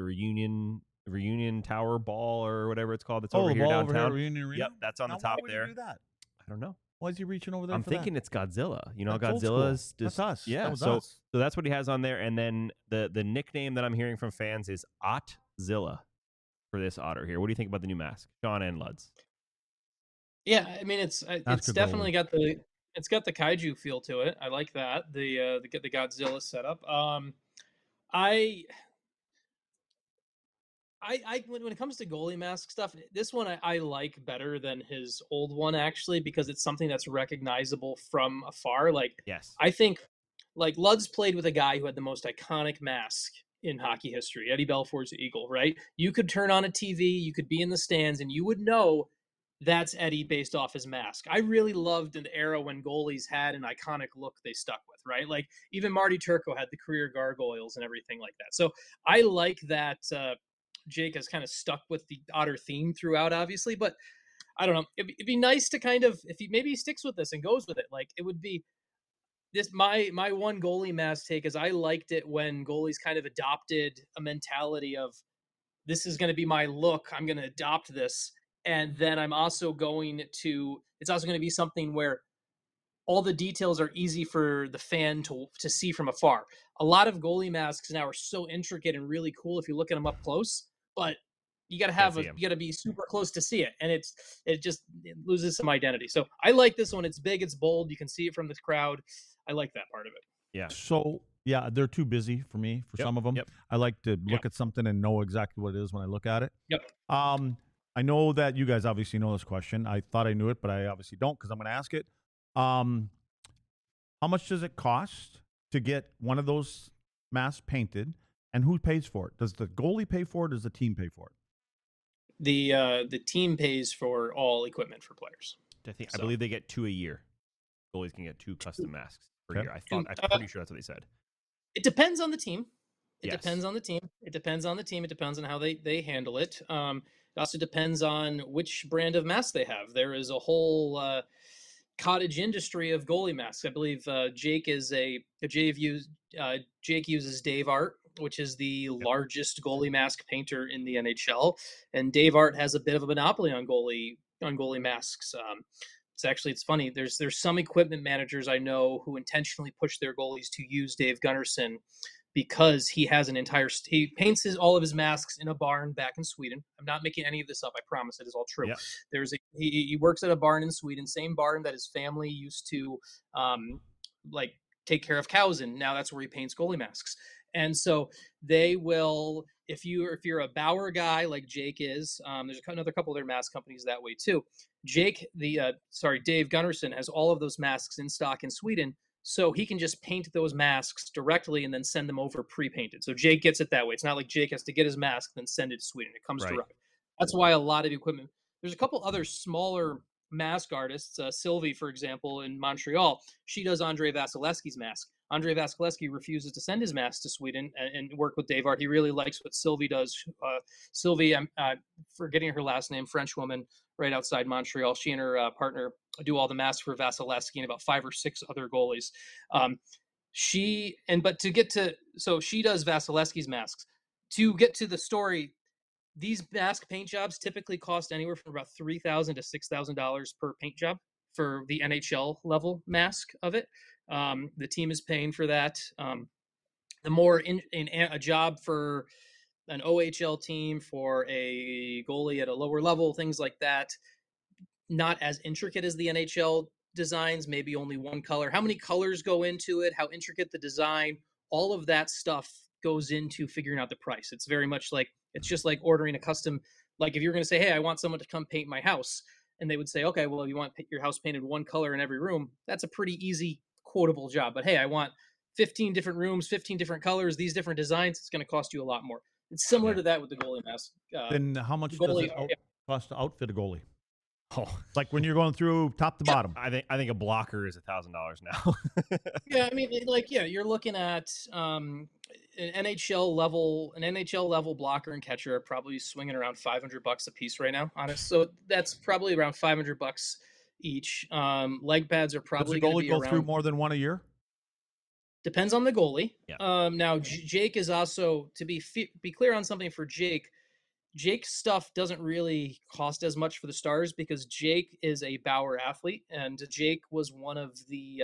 Reunion Tower ball or whatever it's called. That's over here downtown. Reunion Arena? Yep, that's on Now, the top why would there. he do that? I don't know. Why is he reaching over there? I'm for thinking that? it's Godzilla. You know, That's old school. Godzilla's just That's us. Yeah, That was so us. so that's what he has on there. And then the nickname that I'm hearing from fans is Ottzilla for this otter here. What do you think about the new mask, Sean and Luds? Yeah, I mean it's good definitely got the kaiju feel to it. I like that the Godzilla setup. When it comes to goalie mask stuff, this one I like better than his old one actually because it's something that's recognizable from afar. Like Yes. I think like Luds played with a guy who had the most iconic mask in hockey history, Eddie Belfour's Eagle, right? You could turn on a TV, you could be in the stands, and you would know that's Eddie based off his mask. I really loved an era when goalies had an iconic look they stuck with, right? Like even Marty Turco had the career gargoyles and everything like that. So I like that Jake has kind of stuck with the otter theme throughout, obviously, but I don't know. It'd be nice to kind of, if he maybe sticks with this and goes with it. Like it would be this. My one goalie mask take is I liked it when goalies kind of adopted a mentality of this is going to be my look. I'm going to adopt this, and then I'm also going to. It's also going to be something where all the details are easy for the fan to see from afar. A lot of goalie masks now are so intricate and really cool if you look at them up close, but you got to have you got to be super close to see it, and it loses some identity. So I like this one. It's big, it's bold. You can see it from the crowd. I like that part of it. Yeah. So yeah, they're too busy for me for some of them. Yep. I like to look at something and know exactly what it is when I look at it. Yep. I know that you guys obviously know this question. I thought I knew it, but I obviously don't because I'm going to ask it. How much does it cost to get one of those masks painted, and who pays for it? Does the goalie pay for it? Or does the team pay for it? The team pays for all equipment for players. I believe they get 2 a year. Goalies can get 2 custom masks per year. I'm pretty sure that's what they said. It depends on the team. It Yes. depends on the team. It depends on the team. It depends on how they handle it. It also depends on which brand of mask they have. There is a whole cottage industry of goalie masks. I believe Jake uses Dave Art, which is the largest goalie mask painter in the NHL, and Dave Art has a bit of a monopoly on goalie masks. It's funny. There's some equipment managers I know who intentionally push their goalies to use Dave Gunnarsson because he has he paints all of his masks in a barn back in Sweden. I'm not making any of this up. I promise it is all true. Yeah. He works at a barn in Sweden, same barn that his family used to take care of cows in. Now that's where he paints goalie masks. And so they will, if you're a Bauer guy like Jake is, there's another couple of their mask companies that way too. Dave Gunnarsson has all of those masks in stock in Sweden, so he can just paint those masks directly and then send them over pre-painted. So Jake gets it that way. It's not like Jake has to get his mask and then send it to Sweden. It comes direct. That's why a lot of equipment. There's a couple other smaller mask artists. Sylvie, for example, in Montreal, she does Andrei Vasilevsky's mask. Andrei Vasilevsky refuses to send his mask to Sweden and work with Dave Art. He really likes what Sylvie does. Sylvie, I'm forgetting her last name, French woman right outside Montreal. She and her partner do all the masks for Vasilevsky and about 5 or 6 other goalies. She does Vasilevsky's masks. To get to the story, these mask paint jobs typically cost anywhere from about $3,000 to $6,000 per paint job for the NHL level mask of it. The team is paying for that. The more in a job for an OHL team, for a goalie at a lower level, things like that, not as intricate as the NHL designs, maybe only one color. How many colors go into it, how intricate the design, all of that stuff goes into figuring out the price. It's very much like, it's just like ordering a custom, like if you're going to say, hey, I want someone to come paint my house, and they would say, okay, well, you want your house painted one color in every room, that's a pretty easy quotable job. But hey, I want 15 different rooms, 15 different colors, these different designs, it's going to cost you a lot more. It's similar to that with the goalie mask. Then how much does it cost to outfit a goalie? Oh, like when you're going through top to bottom. I think a blocker is $1,000 now. Yeah, I mean, you're looking at an NHL level blocker and catcher are probably swinging around $500 a piece right now. Honest, so that's probably around $500 each. Leg pads are probably going to be go through more than one a year. Depends on the goalie. Yeah. Now Jake is also, to be clear on something for Jake. Jake's stuff doesn't really cost as much for the Stars because Jake is a Bauer athlete, and Jake was one of the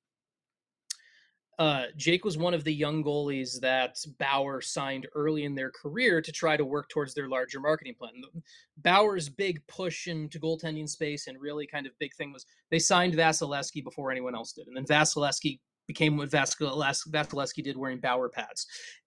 young goalies that Bauer signed early in their career to try to work towards their larger marketing plan. Bauer's big push into goaltending space and really kind of big thing was they signed Vasilevsky before anyone else did, and then Vasilevsky became what Vasilevsky did, wearing Bauer pads,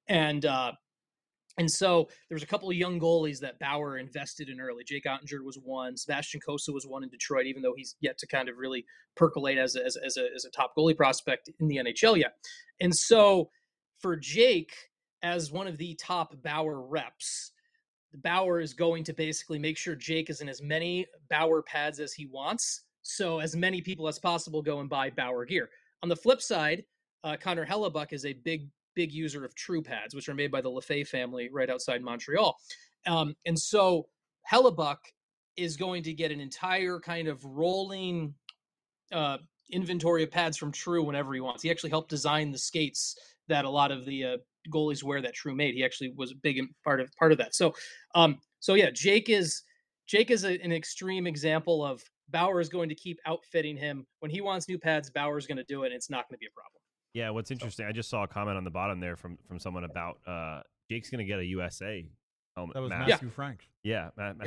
and so there was a couple of young goalies that Bauer invested in early. Jake Ottinger was one. Sebastian Cossa was one in Detroit, even though he's yet to kind of really percolate as a top goalie prospect in the NHL yet. And so for Jake, as one of the top Bauer reps, Bauer is going to basically make sure Jake is in as many Bauer pads as he wants, so as many people as possible go and buy Bauer gear. On the flip side, Connor Hellebuck is a big user of True pads, which are made by the Lefebvre family right outside Montreal. And so Hellebuck is going to get an entire kind of rolling inventory of pads from True whenever he wants. He actually helped design the skates that a lot of the goalies wear that True made. He actually was a big part of that. So, yeah, Jake is an extreme example of Bauer is going to keep outfitting him when he wants new pads. Bauer's going to do it, and it's not going to be a problem. Yeah, what's interesting, I just saw a comment on the bottom there from someone about Jake's going to get a USA helmet. That was mask. Matthew Franks. Yeah,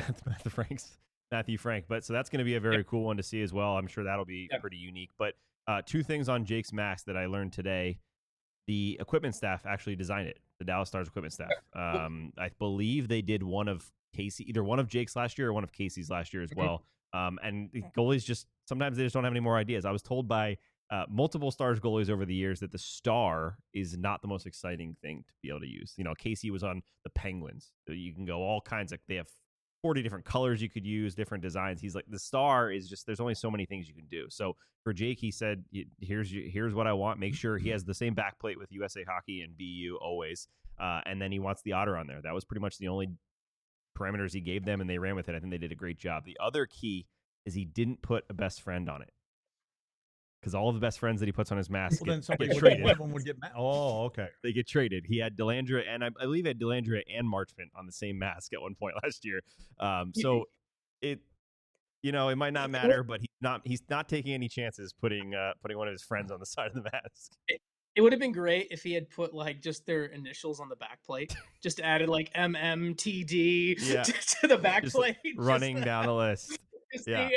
Matthew Frank. But so that's going to be a very cool one to see as well. I'm sure that'll be pretty unique. But two things on Jake's mask that I learned today. The equipment staff actually designed it. The Dallas Stars equipment staff. I believe they did one of either one of Jake's last year or one of Casey's last year as well. And goalies just sometimes they just don't have any more ideas. I was told by multiple Stars goalies over the years that the star is not the most exciting thing to be able to use. You know, Casey was on the Penguins. So you can go all kinds of, they have 40 different colors you could use, different designs. He's like, the star is just, there's only so many things you can do. So for Jake, he said, here's what I want. Make sure he has the same backplate with USA Hockey and BU always. And then he wants the otter on there. That was pretty much the only parameters he gave them, and they ran with it. I think they did a great job. The other key is he didn't put a best friend on it. Because all of the best friends that he puts on his mask Well, then somebody get traded. one of them would get oh, okay. They get traded. He had Dellandrea, and I believe he had Dellandrea and Marchment on the same mask at one point last year. So it, you know, it might not matter, but he's not taking any chances putting one of his friends on the side of the mask. It would have been great if he had put like just their initials on the back plate, just added like MMTD to the back plate, running down the list. Yeah.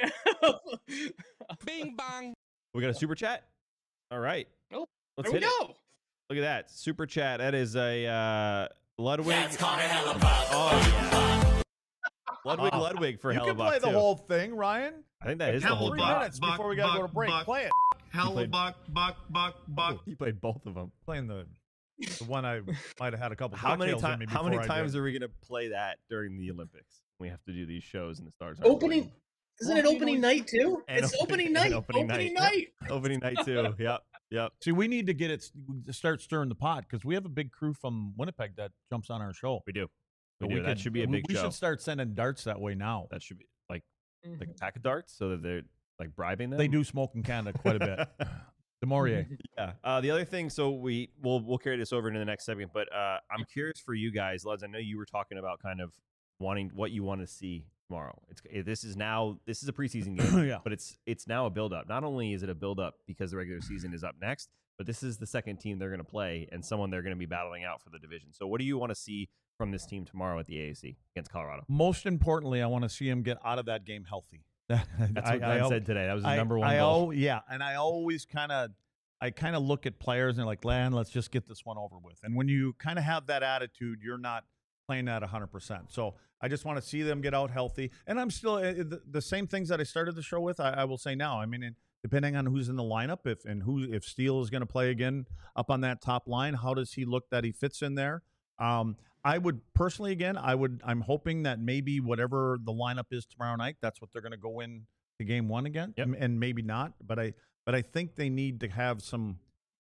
Bing bang. We got a super chat. All right. Oh, let's there hit we go. it. Look at that super chat. That is a Ludwig. That's called a Hellebuck. Oh, yeah. Ludwig for Hellebuck. You can play the whole thing, Ryan. I think that is the whole 3 thing. minutes before we got to go to break. Play it. Hellebuck, buck. He played both of them. Playing the one I might have had a couple. How many times are are we going to play that during the Olympics? We have to do these shows and the Stars. Opening. Isn't it opening night too? And it's opening night. Opening night. Opening night too. Yep. See, we need to get it to start stirring the pot because we have a big crew from Winnipeg that jumps on our show. We do. So that should be a big show. We should start sending darts that way now. That should be like a pack of darts so that they're like bribing them. They do smoke in Canada quite a bit. DeMaurier. Yeah. The other thing, so we'll carry this over into the next segment, but I'm curious for you guys, Leds. I know you were talking about kind of wanting what you want to see tomorrow. This is a preseason game, but it's now a build up. Not only is it a build up because the regular season is up next, but this is the second team they're going to play and someone they're going to be battling out for the division. So what do you want to see from this team tomorrow at the AAC against Colorado? Most importantly, I want to see him get out of that game healthy. That's what Glenn said today. That was his number one goal. And I always kind of look at players and like, Glenn, let's just get this one over with. And when you kind of have that attitude, you're not playing at 100%. So I just want to see them get out healthy. And I'm still the same things that I started the show with. I will say now. I mean, depending on who's in the lineup, if Steele is going to play again up on that top line, how does he look that he fits in there? I would personally, I'm hoping that maybe whatever the lineup is tomorrow night, that's what they're going to go in to game one again, and maybe not. But I think they need to have some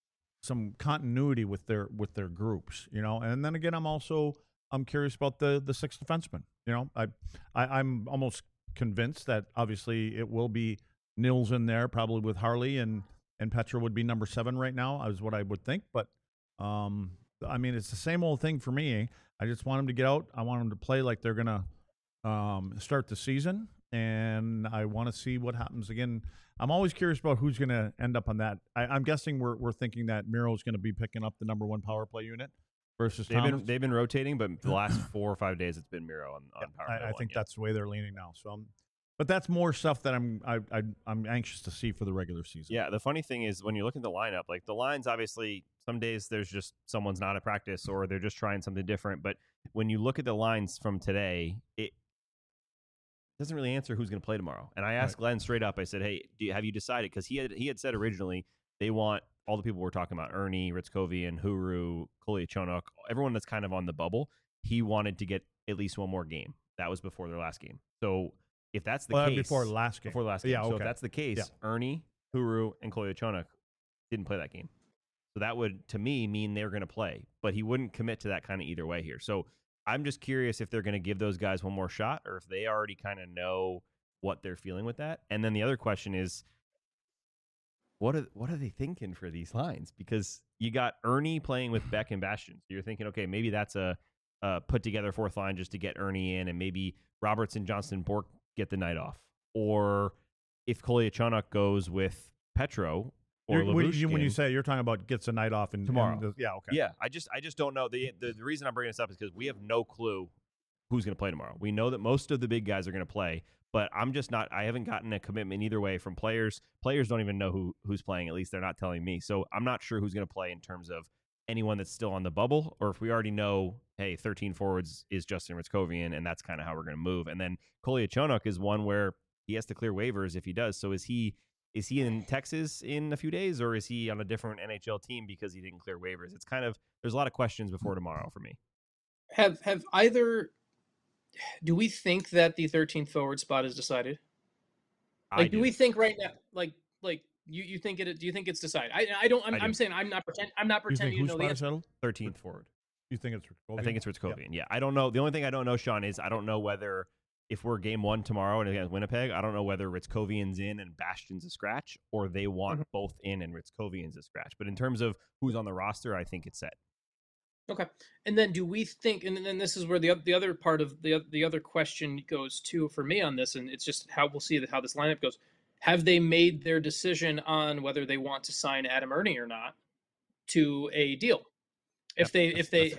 continuity with their groups, you know. And then again, I'm curious about the sixth defenseman. You know, I'm almost convinced that obviously it will be Nils in there, probably with Harley and Petra would be number 7 right now, is what I would think. But I mean, it's the same old thing for me. I just want them to get out. I want them to play like they're gonna start the season, and I want to see what happens again. I'm always curious about who's going to end up on that. I'm guessing we're thinking that Miro's going to be picking up the number 1 power play unit versus Thomas. They've been rotating, but the last 4 or 5 days it's been Miro on power play. I think that's the way they're leaning now. So but that's more stuff that I'm anxious to see for the regular season. Yeah, the funny thing is when you look at the lineup, like the lines, obviously some days there's just someone's not at practice or they're just trying something different. But when you look at the lines from today, it doesn't really answer who's going to play tomorrow. And I asked Glenn straight up. I said, "Hey, have you decided?" Because he had said originally they want all the people we're talking about: Ernie, Ritzkovian, Huru, Kolyachonok, everyone that's kind of on the bubble. He wanted to get at least one more game. That was before their last game. So if that's the case, before the last game. Yeah, okay. So if that's the case, Ernie, Huru, and Kolyachonok didn't play that game. So that would, to me, mean they're going to play. But he wouldn't commit to that kind of either way here. So I'm just curious if they're going to give those guys one more shot or if they already kind of know what they're feeling with that. And then the other question is, what are they thinking for these lines? Because you got Ernie playing with Beck and Bastion. So you're thinking, okay, maybe that's a put together fourth line just to get Ernie in, and maybe Robertson, Johnston, Bork get the night off. Or if Kolyachonok goes with Petro or When you Lyubushkin say you're talking about gets a night off tomorrow. yeah, okay. Yeah, I just don't know. The reason I'm bringing this up is because we have no clue who's going to play tomorrow. We know that most of the big guys are going to play, but I'm just not. I haven't gotten a commitment either way from players. Players don't even know who's playing. At least they're not telling me. So I'm not sure who's going to play in terms of anyone that's still on the bubble, or if we already know, hey, 13 forwards is Justin Ritzkovian, and that's kind of how we're going to move. And then Kolyachonok is one where he has to clear waivers if he does. So is he in Texas in a few days, or is he on a different NHL team because he didn't clear waivers? It's kind of, there's a lot of questions before tomorrow for me. Do we think that the 13th forward spot is decided? Like, do we think right now, like you think it? Do you think it's decided? I don't. I'm saying I'm not pretending you know the answer. 13th forward. You think it's Ritzkovian? I think it's Ritzkovian. Yeah, I don't know. The only thing I don't know, Sean, is I don't know whether if we're game one tomorrow and against Winnipeg, I don't know whether Ritzkovian's in and Bastion's a scratch, or they want both in and Ritzkovian's a scratch. But in terms of who's on the roster, I think it's set. Okay, and then do we think? And then this is where the other part of the other question goes to for me on this, and it's just how we'll see how this lineup goes. Have they made their decision on whether they want to sign Adam Ernie or not to a deal? If they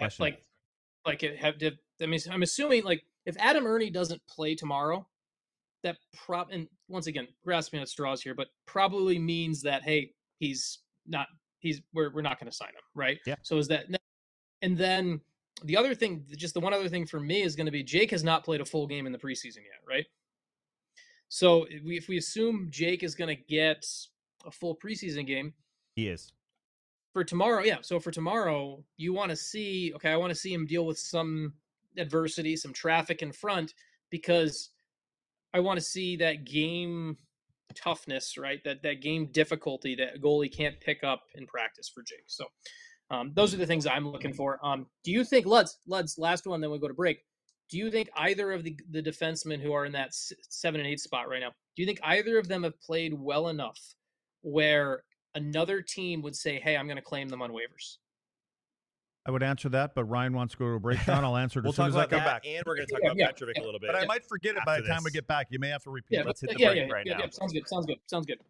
I'm assuming like if Adam Ernie doesn't play tomorrow, that and once again grasping at straws here, but probably means that hey, we're not going to sign him, right? Yeah. So is that, and then the other thing, just the one other thing for me is going to be Jake has not played a full game in the preseason yet, right? So if we assume Jake is going to get a full preseason game, he is. For tomorrow, yeah. So for tomorrow, you want to see, okay, I want to see him deal with some adversity, some traffic in front, because I want to see that game toughness, right? That game difficulty that a goalie can't pick up in practice for Jake. So those are the things I'm looking for. Do you think, Luds, last one, then we'll go to break. Do you think either of the defensemen who are in that 7 and 8 spot right now, do you think either of them have played well enough where another team would say, hey, I'm going to claim them on waivers? I would answer that, but Ryan wants to go to a break. Sean, I'll answer it as soon as I come back. And we're going to talk about Petrovic a little bit. But I might forget it by the time we get back. You may have to repeat it. Let's hit the break right now. Yeah, sounds good.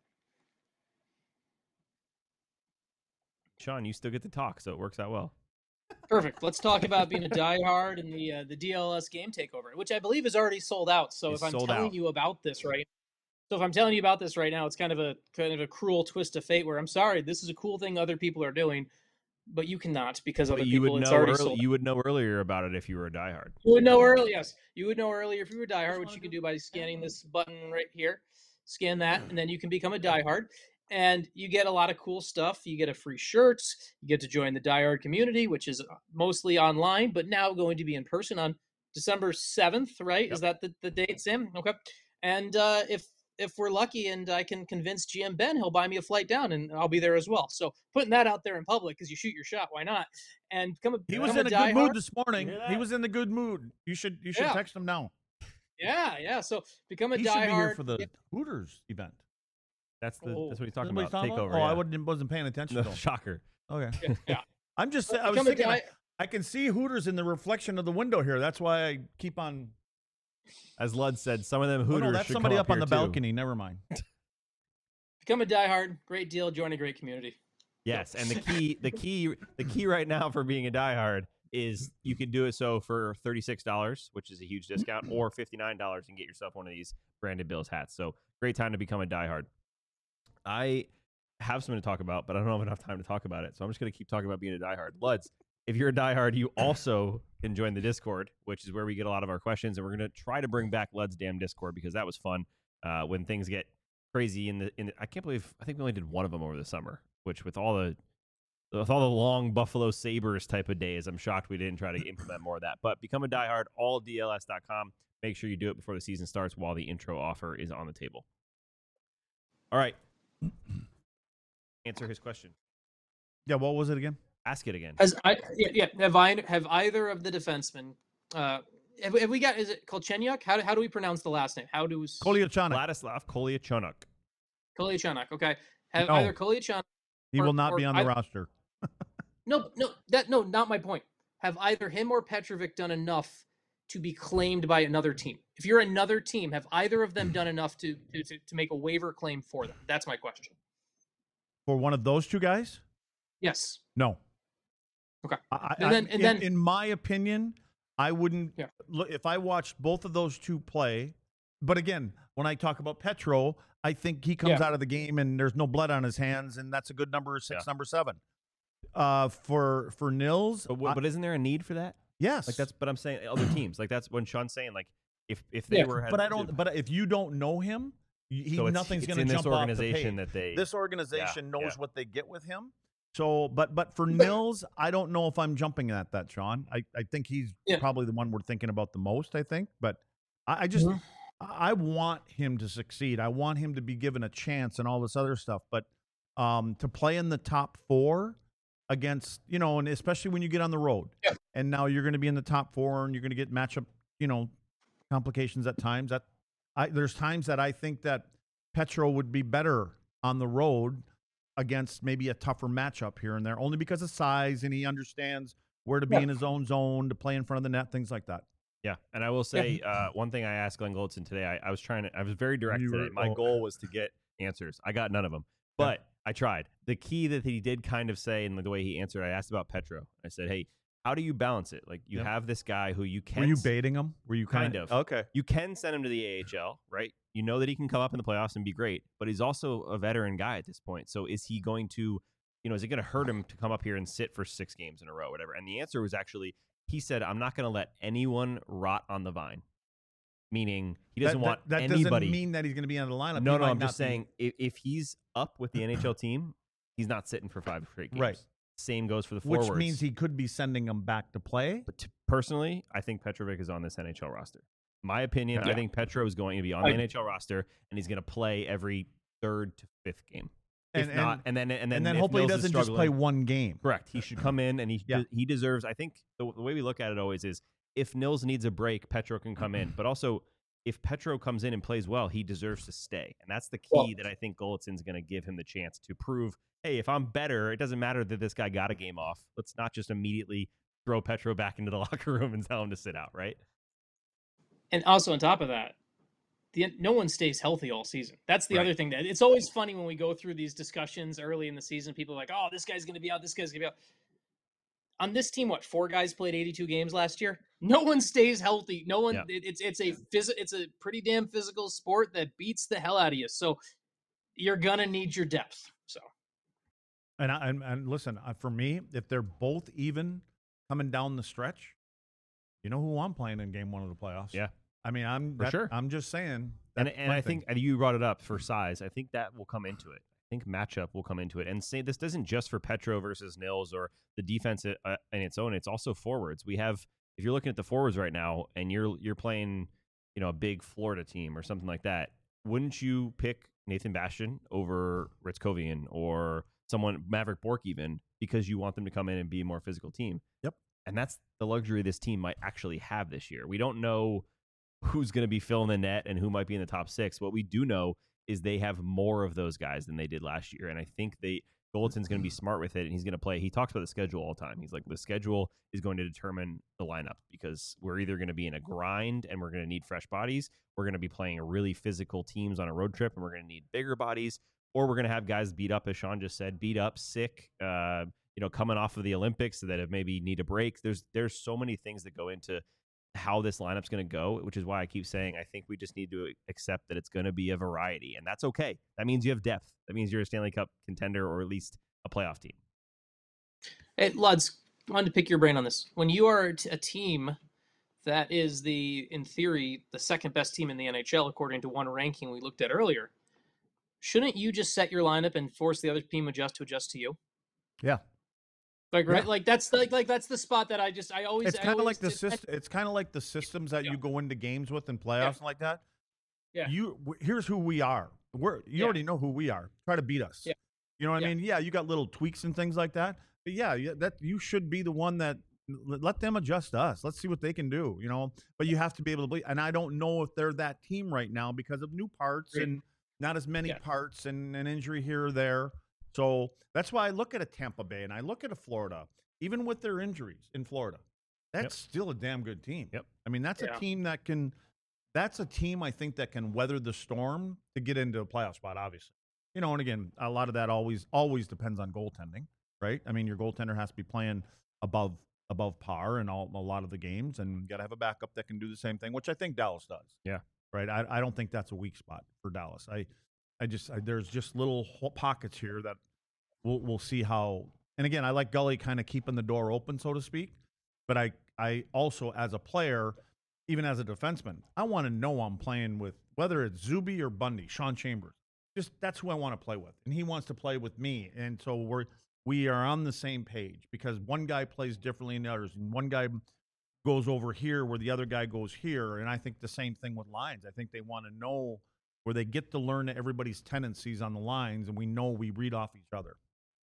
Sean, you still get to talk, so it works out well. Perfect. Let's talk about being a diehard and the DLS game takeover, which I believe is already sold out. So if I'm telling you about this right now, it's kind of a cruel twist of fate where I'm sorry, this is a cool thing other people are doing, but you cannot because other people it's already sold. You would know earlier about it if you were a diehard. You would know early, yes. You would know earlier if you were a diehard, which you can do by scanning this button right here. Scan that, and then you can become a diehard. And you get a lot of cool stuff. You get a free shirt. You get to join the Die Hard community, which is mostly online, but now going to be in person on December 7th, right? Yep. Is that the date, Sam? Okay. And if we're lucky and I can convince GM Ben, he'll buy me a flight down, and I'll be there as well. So putting that out there in public because you shoot your shot, why not? And he was in a good mood this morning. He was in the good mood. You should text him now. Yeah. So become a he diehard. Should be here for the Hooters event. That's what he's talking about. Takeover. Oh, yeah. I wasn't paying attention. No, shocker. Okay. Yeah. I'm just. I was thinking. I can see Hooters in the reflection of the window here. That's why I keep on. As Lud said, some of them Hooters. Oh, no, that's somebody up on the balcony. Never mind. Become a diehard. Great deal. Join a great community. Yes, and the key right now for being a diehard is you can do it so for $36, which is a huge discount, or $59 and get yourself one of these branded Bills hats. So great time to become a diehard. I have something to talk about, but I don't have enough time to talk about it. So I'm just going to keep talking about being a diehard. Luds, if you're a diehard, you also can join the Discord, which is where we get a lot of our questions. And we're going to try to bring back Lud's damn Discord because that was fun when things get crazy. I can't believe, I think we only did one of them over the summer, which with all the long Buffalo Sabres type of days, I'm shocked we didn't try to implement more of that. But become a diehard, alldls.com. Make sure you do it before the season starts while the intro offer is on the table. All right. Answer his question. Yeah, what was it again? Ask it again. Have either of the defensemen Have we got? Is it Kolchenyuk? How do we pronounce the last name? How do Kolyachonok. Vladislav Kolyachonok. Kolyachonok? Okay, have No. either Kolyachonok. He will not be on the I- roster. No, not my point. Have either him or Petrovic done enough to be claimed by another team? If you're another team, have either of them done enough to make a waiver claim for them? That's my question. For one of those two guys? Yes. No. Okay. And then, in my opinion, I wouldn't look if I watched both of those two play. But again, when I talk about Petro, I think he comes out of the game and there's no blood on his hands, and that's a good number 6, number 7. For Nils, but isn't there a need for that? Yes, like that's. But I'm saying other teams, like that's when Sean's saying, like if they were. But I don't. But if you don't know him, nothing's going to jump off the page. This organization knows what they get with him. So, but for Nils, I don't know if I'm jumping at that, Sean. I think he's probably the one we're thinking about the most, I think. But I just, I want him to succeed. I want him to be given a chance and all this other stuff. But to play in the top 4 against, and especially when you get on the road, and now you're going to be in the top 4 and you're going to get matchup, complications at times. There's times that I think that Petro would be better on the road against maybe a tougher matchup here and there, only because of size, and he understands where to be in his own zone, to play in front of the net, things like that. Yeah, and I will say one thing I asked Glenn Goldson today. I was very direct today. My goal was to get answers. I got none of them, but I tried. The key that he did kind of say, and the way he answered, I asked about Petro. I said, hey, how do you balance it? Like, you have this guy who you can... Were you baiting him? Were you kind of? Okay. You can send him to the AHL, right? You know that he can come up in the playoffs and be great, but he's also a veteran guy at this point. So is he going to, is it going to hurt him to come up here and sit for 6 games in a row, whatever? And the answer was actually, he said, I'm not going to let anyone rot on the vine. Meaning he doesn't want that anybody. That doesn't mean that he's going to be on the lineup. No, I'm just saying if he's up with the NHL team, he's not sitting for 5 straight games. Right. Same goes for the forwards. Which means he could be sending them back to play. But personally, I think Petrovic is on this NHL roster. My opinion, I think Petro is going to be on the NHL roster, and he's going to play every 3rd to 5th game. If not, and then hopefully he doesn't just play one game. Correct. He should come in, and he deserves. I think the way we look at it always is if Nils needs a break, Petro can come in. But also, if Petro comes in and plays well, he deserves to stay, and that's the key that I think Golitsyn's going to give him the chance to prove. Hey, if I'm better, it doesn't matter that this guy got a game off. Let's not just immediately throw Petro back into the locker room and tell him to sit out, right? And also on top of that, no one stays healthy all season. That's the other thing. That it's always funny when we go through these discussions early in the season. People are like, "Oh, this guy's going to be out. This guy's going to be out." On this team, 4 guys played 82 games last year? No one stays healthy. No one. Yeah. It's a pretty damn physical sport that beats the hell out of you. So you're gonna need your depth. So. And listen, for me, if they're both even coming down the stretch, you know who I'm playing in game 1 of the playoffs. Yeah. I mean, I'm just saying. And I think you brought it up for size. I think that will come into it. I think matchup will come into it. And say this isn't just for Petro versus Nils or the defense in its own. It's also forwards. We have, if you're looking at the forwards right now and you're playing, a big Florida team or something like that, wouldn't you pick Nathan Bastian over Ritzkovian or someone, Maverick Bourque even, because you want them to come in and be a more physical team? Yep. And that's the luxury this team might actually have this year. We don't know who's going to be filling the net and who might be in the top 6. What we do know is they have more of those guys than they did last year. And I think Golitsyn's going to be smart with it, and he's going to play. He talks about the schedule all the time. He's like, the schedule is going to determine the lineup because we're either going to be in a grind and we're going to need fresh bodies. We're going to be playing really physical teams on a road trip, and we're going to need bigger bodies, or we're going to have guys beat up, as Sean just said, beat up, sick, coming off of the Olympics that have maybe need a break. There's so many things that go into how this lineup's going to go, which is why I keep saying I think we just need to accept that it's going to be a variety, and that's okay. That means you have depth. That means you're a Stanley Cup contender or at least a playoff team. Hey, Luds, I wanted to pick your brain on this. When you are a team that is in theory, the second best team in the NHL, according to one ranking we looked at earlier, shouldn't you just set your lineup and force the other team to adjust to you? Yeah. Like right, like that's that's the spot that I always. It's kind of like the system. It's kind of like the systems that you go into games with in playoffs and like that. Yeah. Here's who we are. You already know who we are. Try to beat us. Yeah. You know what I mean? Yeah, you got little tweaks and things like that. But that you should be the one that Let them adjust us. Let's see what they can do, But you have to be able to believe. And I don't know if they're that team right now because of new parts and not as many parts and an injury here or there. So that's why I look at a Tampa Bay and I look at a Florida, even with their injuries in Florida. That's still a damn good team. Yep. I mean, that's a team that can – that's a team I think that can weather the storm to get into a playoff spot, obviously. And again, a lot of that always depends on goaltending, right? I mean, your goaltender has to be playing above par in a lot of the games, and you got to have a backup that can do the same thing, which I think Dallas does. Yeah. Right? I don't think that's a weak spot for Dallas. There's just little pockets here that we'll see how – and again, I like Gully kind of keeping the door open, so to speak, but I also, as a player – even as a defenseman, I want to know I'm playing with, whether it's Zuby or Bundy, Sean Chambers. Just that's who I want to play with, and he wants to play with me, and so we are on the same page because one guy plays differently than the others, and one guy goes over here where the other guy goes here, and I think the same thing with lines. I think they want to know where they get to learn everybody's tendencies on the lines, and we know we read off each other.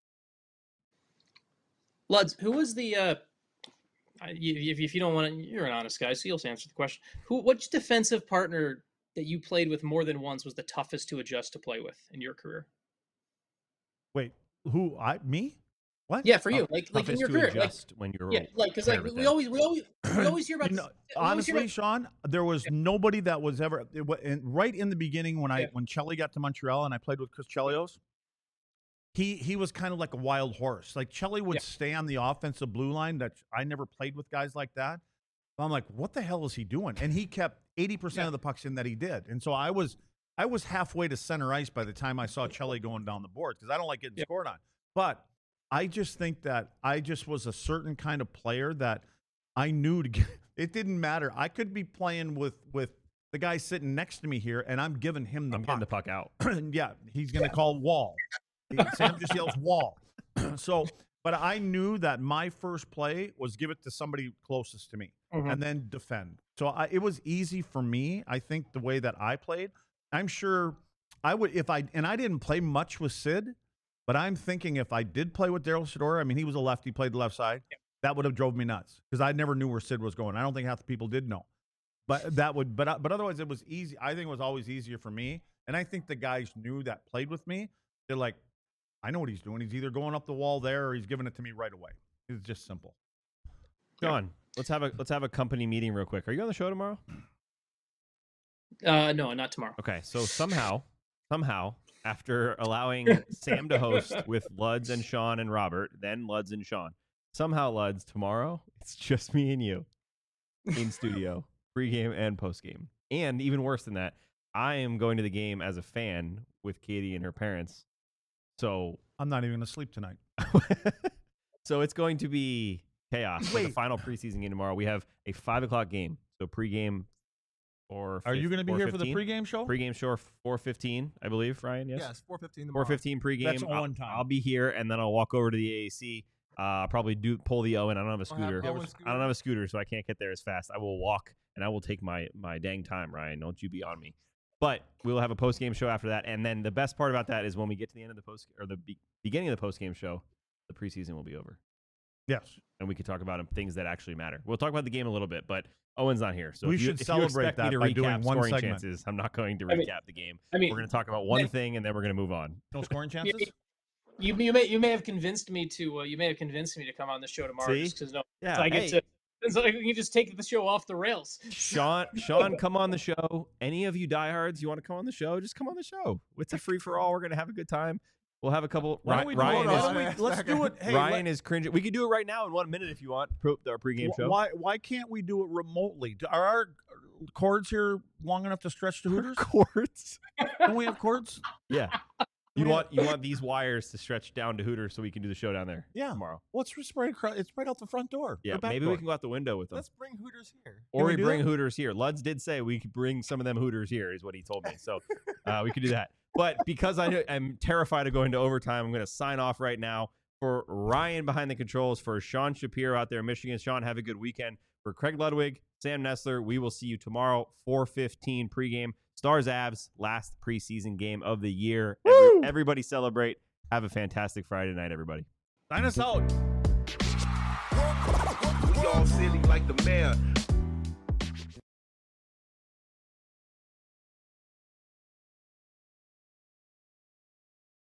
Luds, who was the? If you don't want to, you're an honest guy, so you'll answer the question. Which defensive partner that you played with more than once was the toughest to adjust to play with in your career? Wait, me? What? Yeah, for you, like in your career, when you were because we always hear about. Honestly, Sean, there was nobody that was ever right in the beginning when Chelly got to Montreal and I played with Chris Chelios. He was kind of like a wild horse. Like Chelly would stay on the offensive blue line. That I never played with guys like that. I'm like, what the hell is he doing? And he kept 80% of the pucks in that he did. And so I was halfway to center ice by the time I saw Chelly going down the boards because I don't like getting scored on. But I just think that I just was a certain kind of player that I knew to get. It didn't matter. I could be playing with the guy sitting next to me here, and I'm giving him the puck. Getting the puck out. Yeah, he's going to call wall. Sam just yells wall. But I knew that my first play was give it to somebody closest to me and then defend. So it was easy for me. I think the way that I played, I'm sure I would I didn't play much with Sid, but I'm thinking if I did play with Daryl Sador, I mean, he was a lefty, played the left side. Yeah. That would have drove me nuts because I never knew where Sid was going. I don't think half the people did know. But but otherwise it was easy. I think it was always easier for me. And I think the guys knew that played with me. They're like, I know what he's doing. He's either going up the wall there or he's giving it to me right away. It's just simple. John, let's have a company meeting real quick. Are you on the show tomorrow? No, not tomorrow. Okay, so somehow, after allowing Sam to host with Luds and Sean and Robert, then Luds and Sean, somehow Luds tomorrow it's just me and you in studio, pregame and postgame, and even worse than that, I am going to the game as a fan with Katie and her parents. So I'm not even going to sleep tonight. So it's going to be chaos for the final preseason game tomorrow. We have a 5:00 game. So pregame or are you going to be here for the pregame show? Pregame show 4:15, I believe, Ryan. Yes. Yes, 4:15 tomorrow. 4:15 pregame. That's on time. I'll be here and then I'll walk over to the AAC. Probably pull the Owen. I don't have a scooter. I don't have a scooter, so I can't get there as fast. I will walk and I will take my dang time, Ryan. Don't you be on me. But we'll have a post-game show after that. And then the best part about that is when we get to the end of the beginning of the post-game show, the preseason will be over. Yes. And we can talk about things that actually matter. We'll talk about the game a little bit, but Owen's not here. So we should celebrate that by doing one segment. Chances, I'm not going to recap the game. We're going to talk about one thing and then we're going to move on. No scoring chances? You may have convinced me to come on the show tomorrow. See? Just because I get to. It's like we can just take the show off the rails. Sean, come on the show. Any of you diehards, you want to come on the show? Just come on the show. It's a free for all. We're gonna have a good time. We'll have a couple. Let's do it. Hey, Ryan is cringing. We can do it right now in 1 minute if you want. Our pregame show. Why can't we do it remotely? Are our cords here long enough to stretch to Hooters? Cords? Don't we have cords? Yeah. You want these wires to stretch down to Hooters so we can do the show down there tomorrow. Well, it's right across. It's right out the front door. Yeah, maybe we can go out the window with them. Let's bring Hooters here. Or we bring Hooters here. Luds did say we could bring some of them Hooters here, is what he told me. So we could do that. But because I'm terrified of going to overtime, I'm going to sign off right now. For Ryan behind the controls, for Sean Shapiro out there in Michigan. Sean, have a good weekend. For Craig Ludwig, Sam Nessler, we will see you tomorrow, 4:15 pregame. Stars Avs, last preseason game of the year. Everybody celebrate. Have a fantastic Friday night, everybody. Sign us out. silly like the mayor.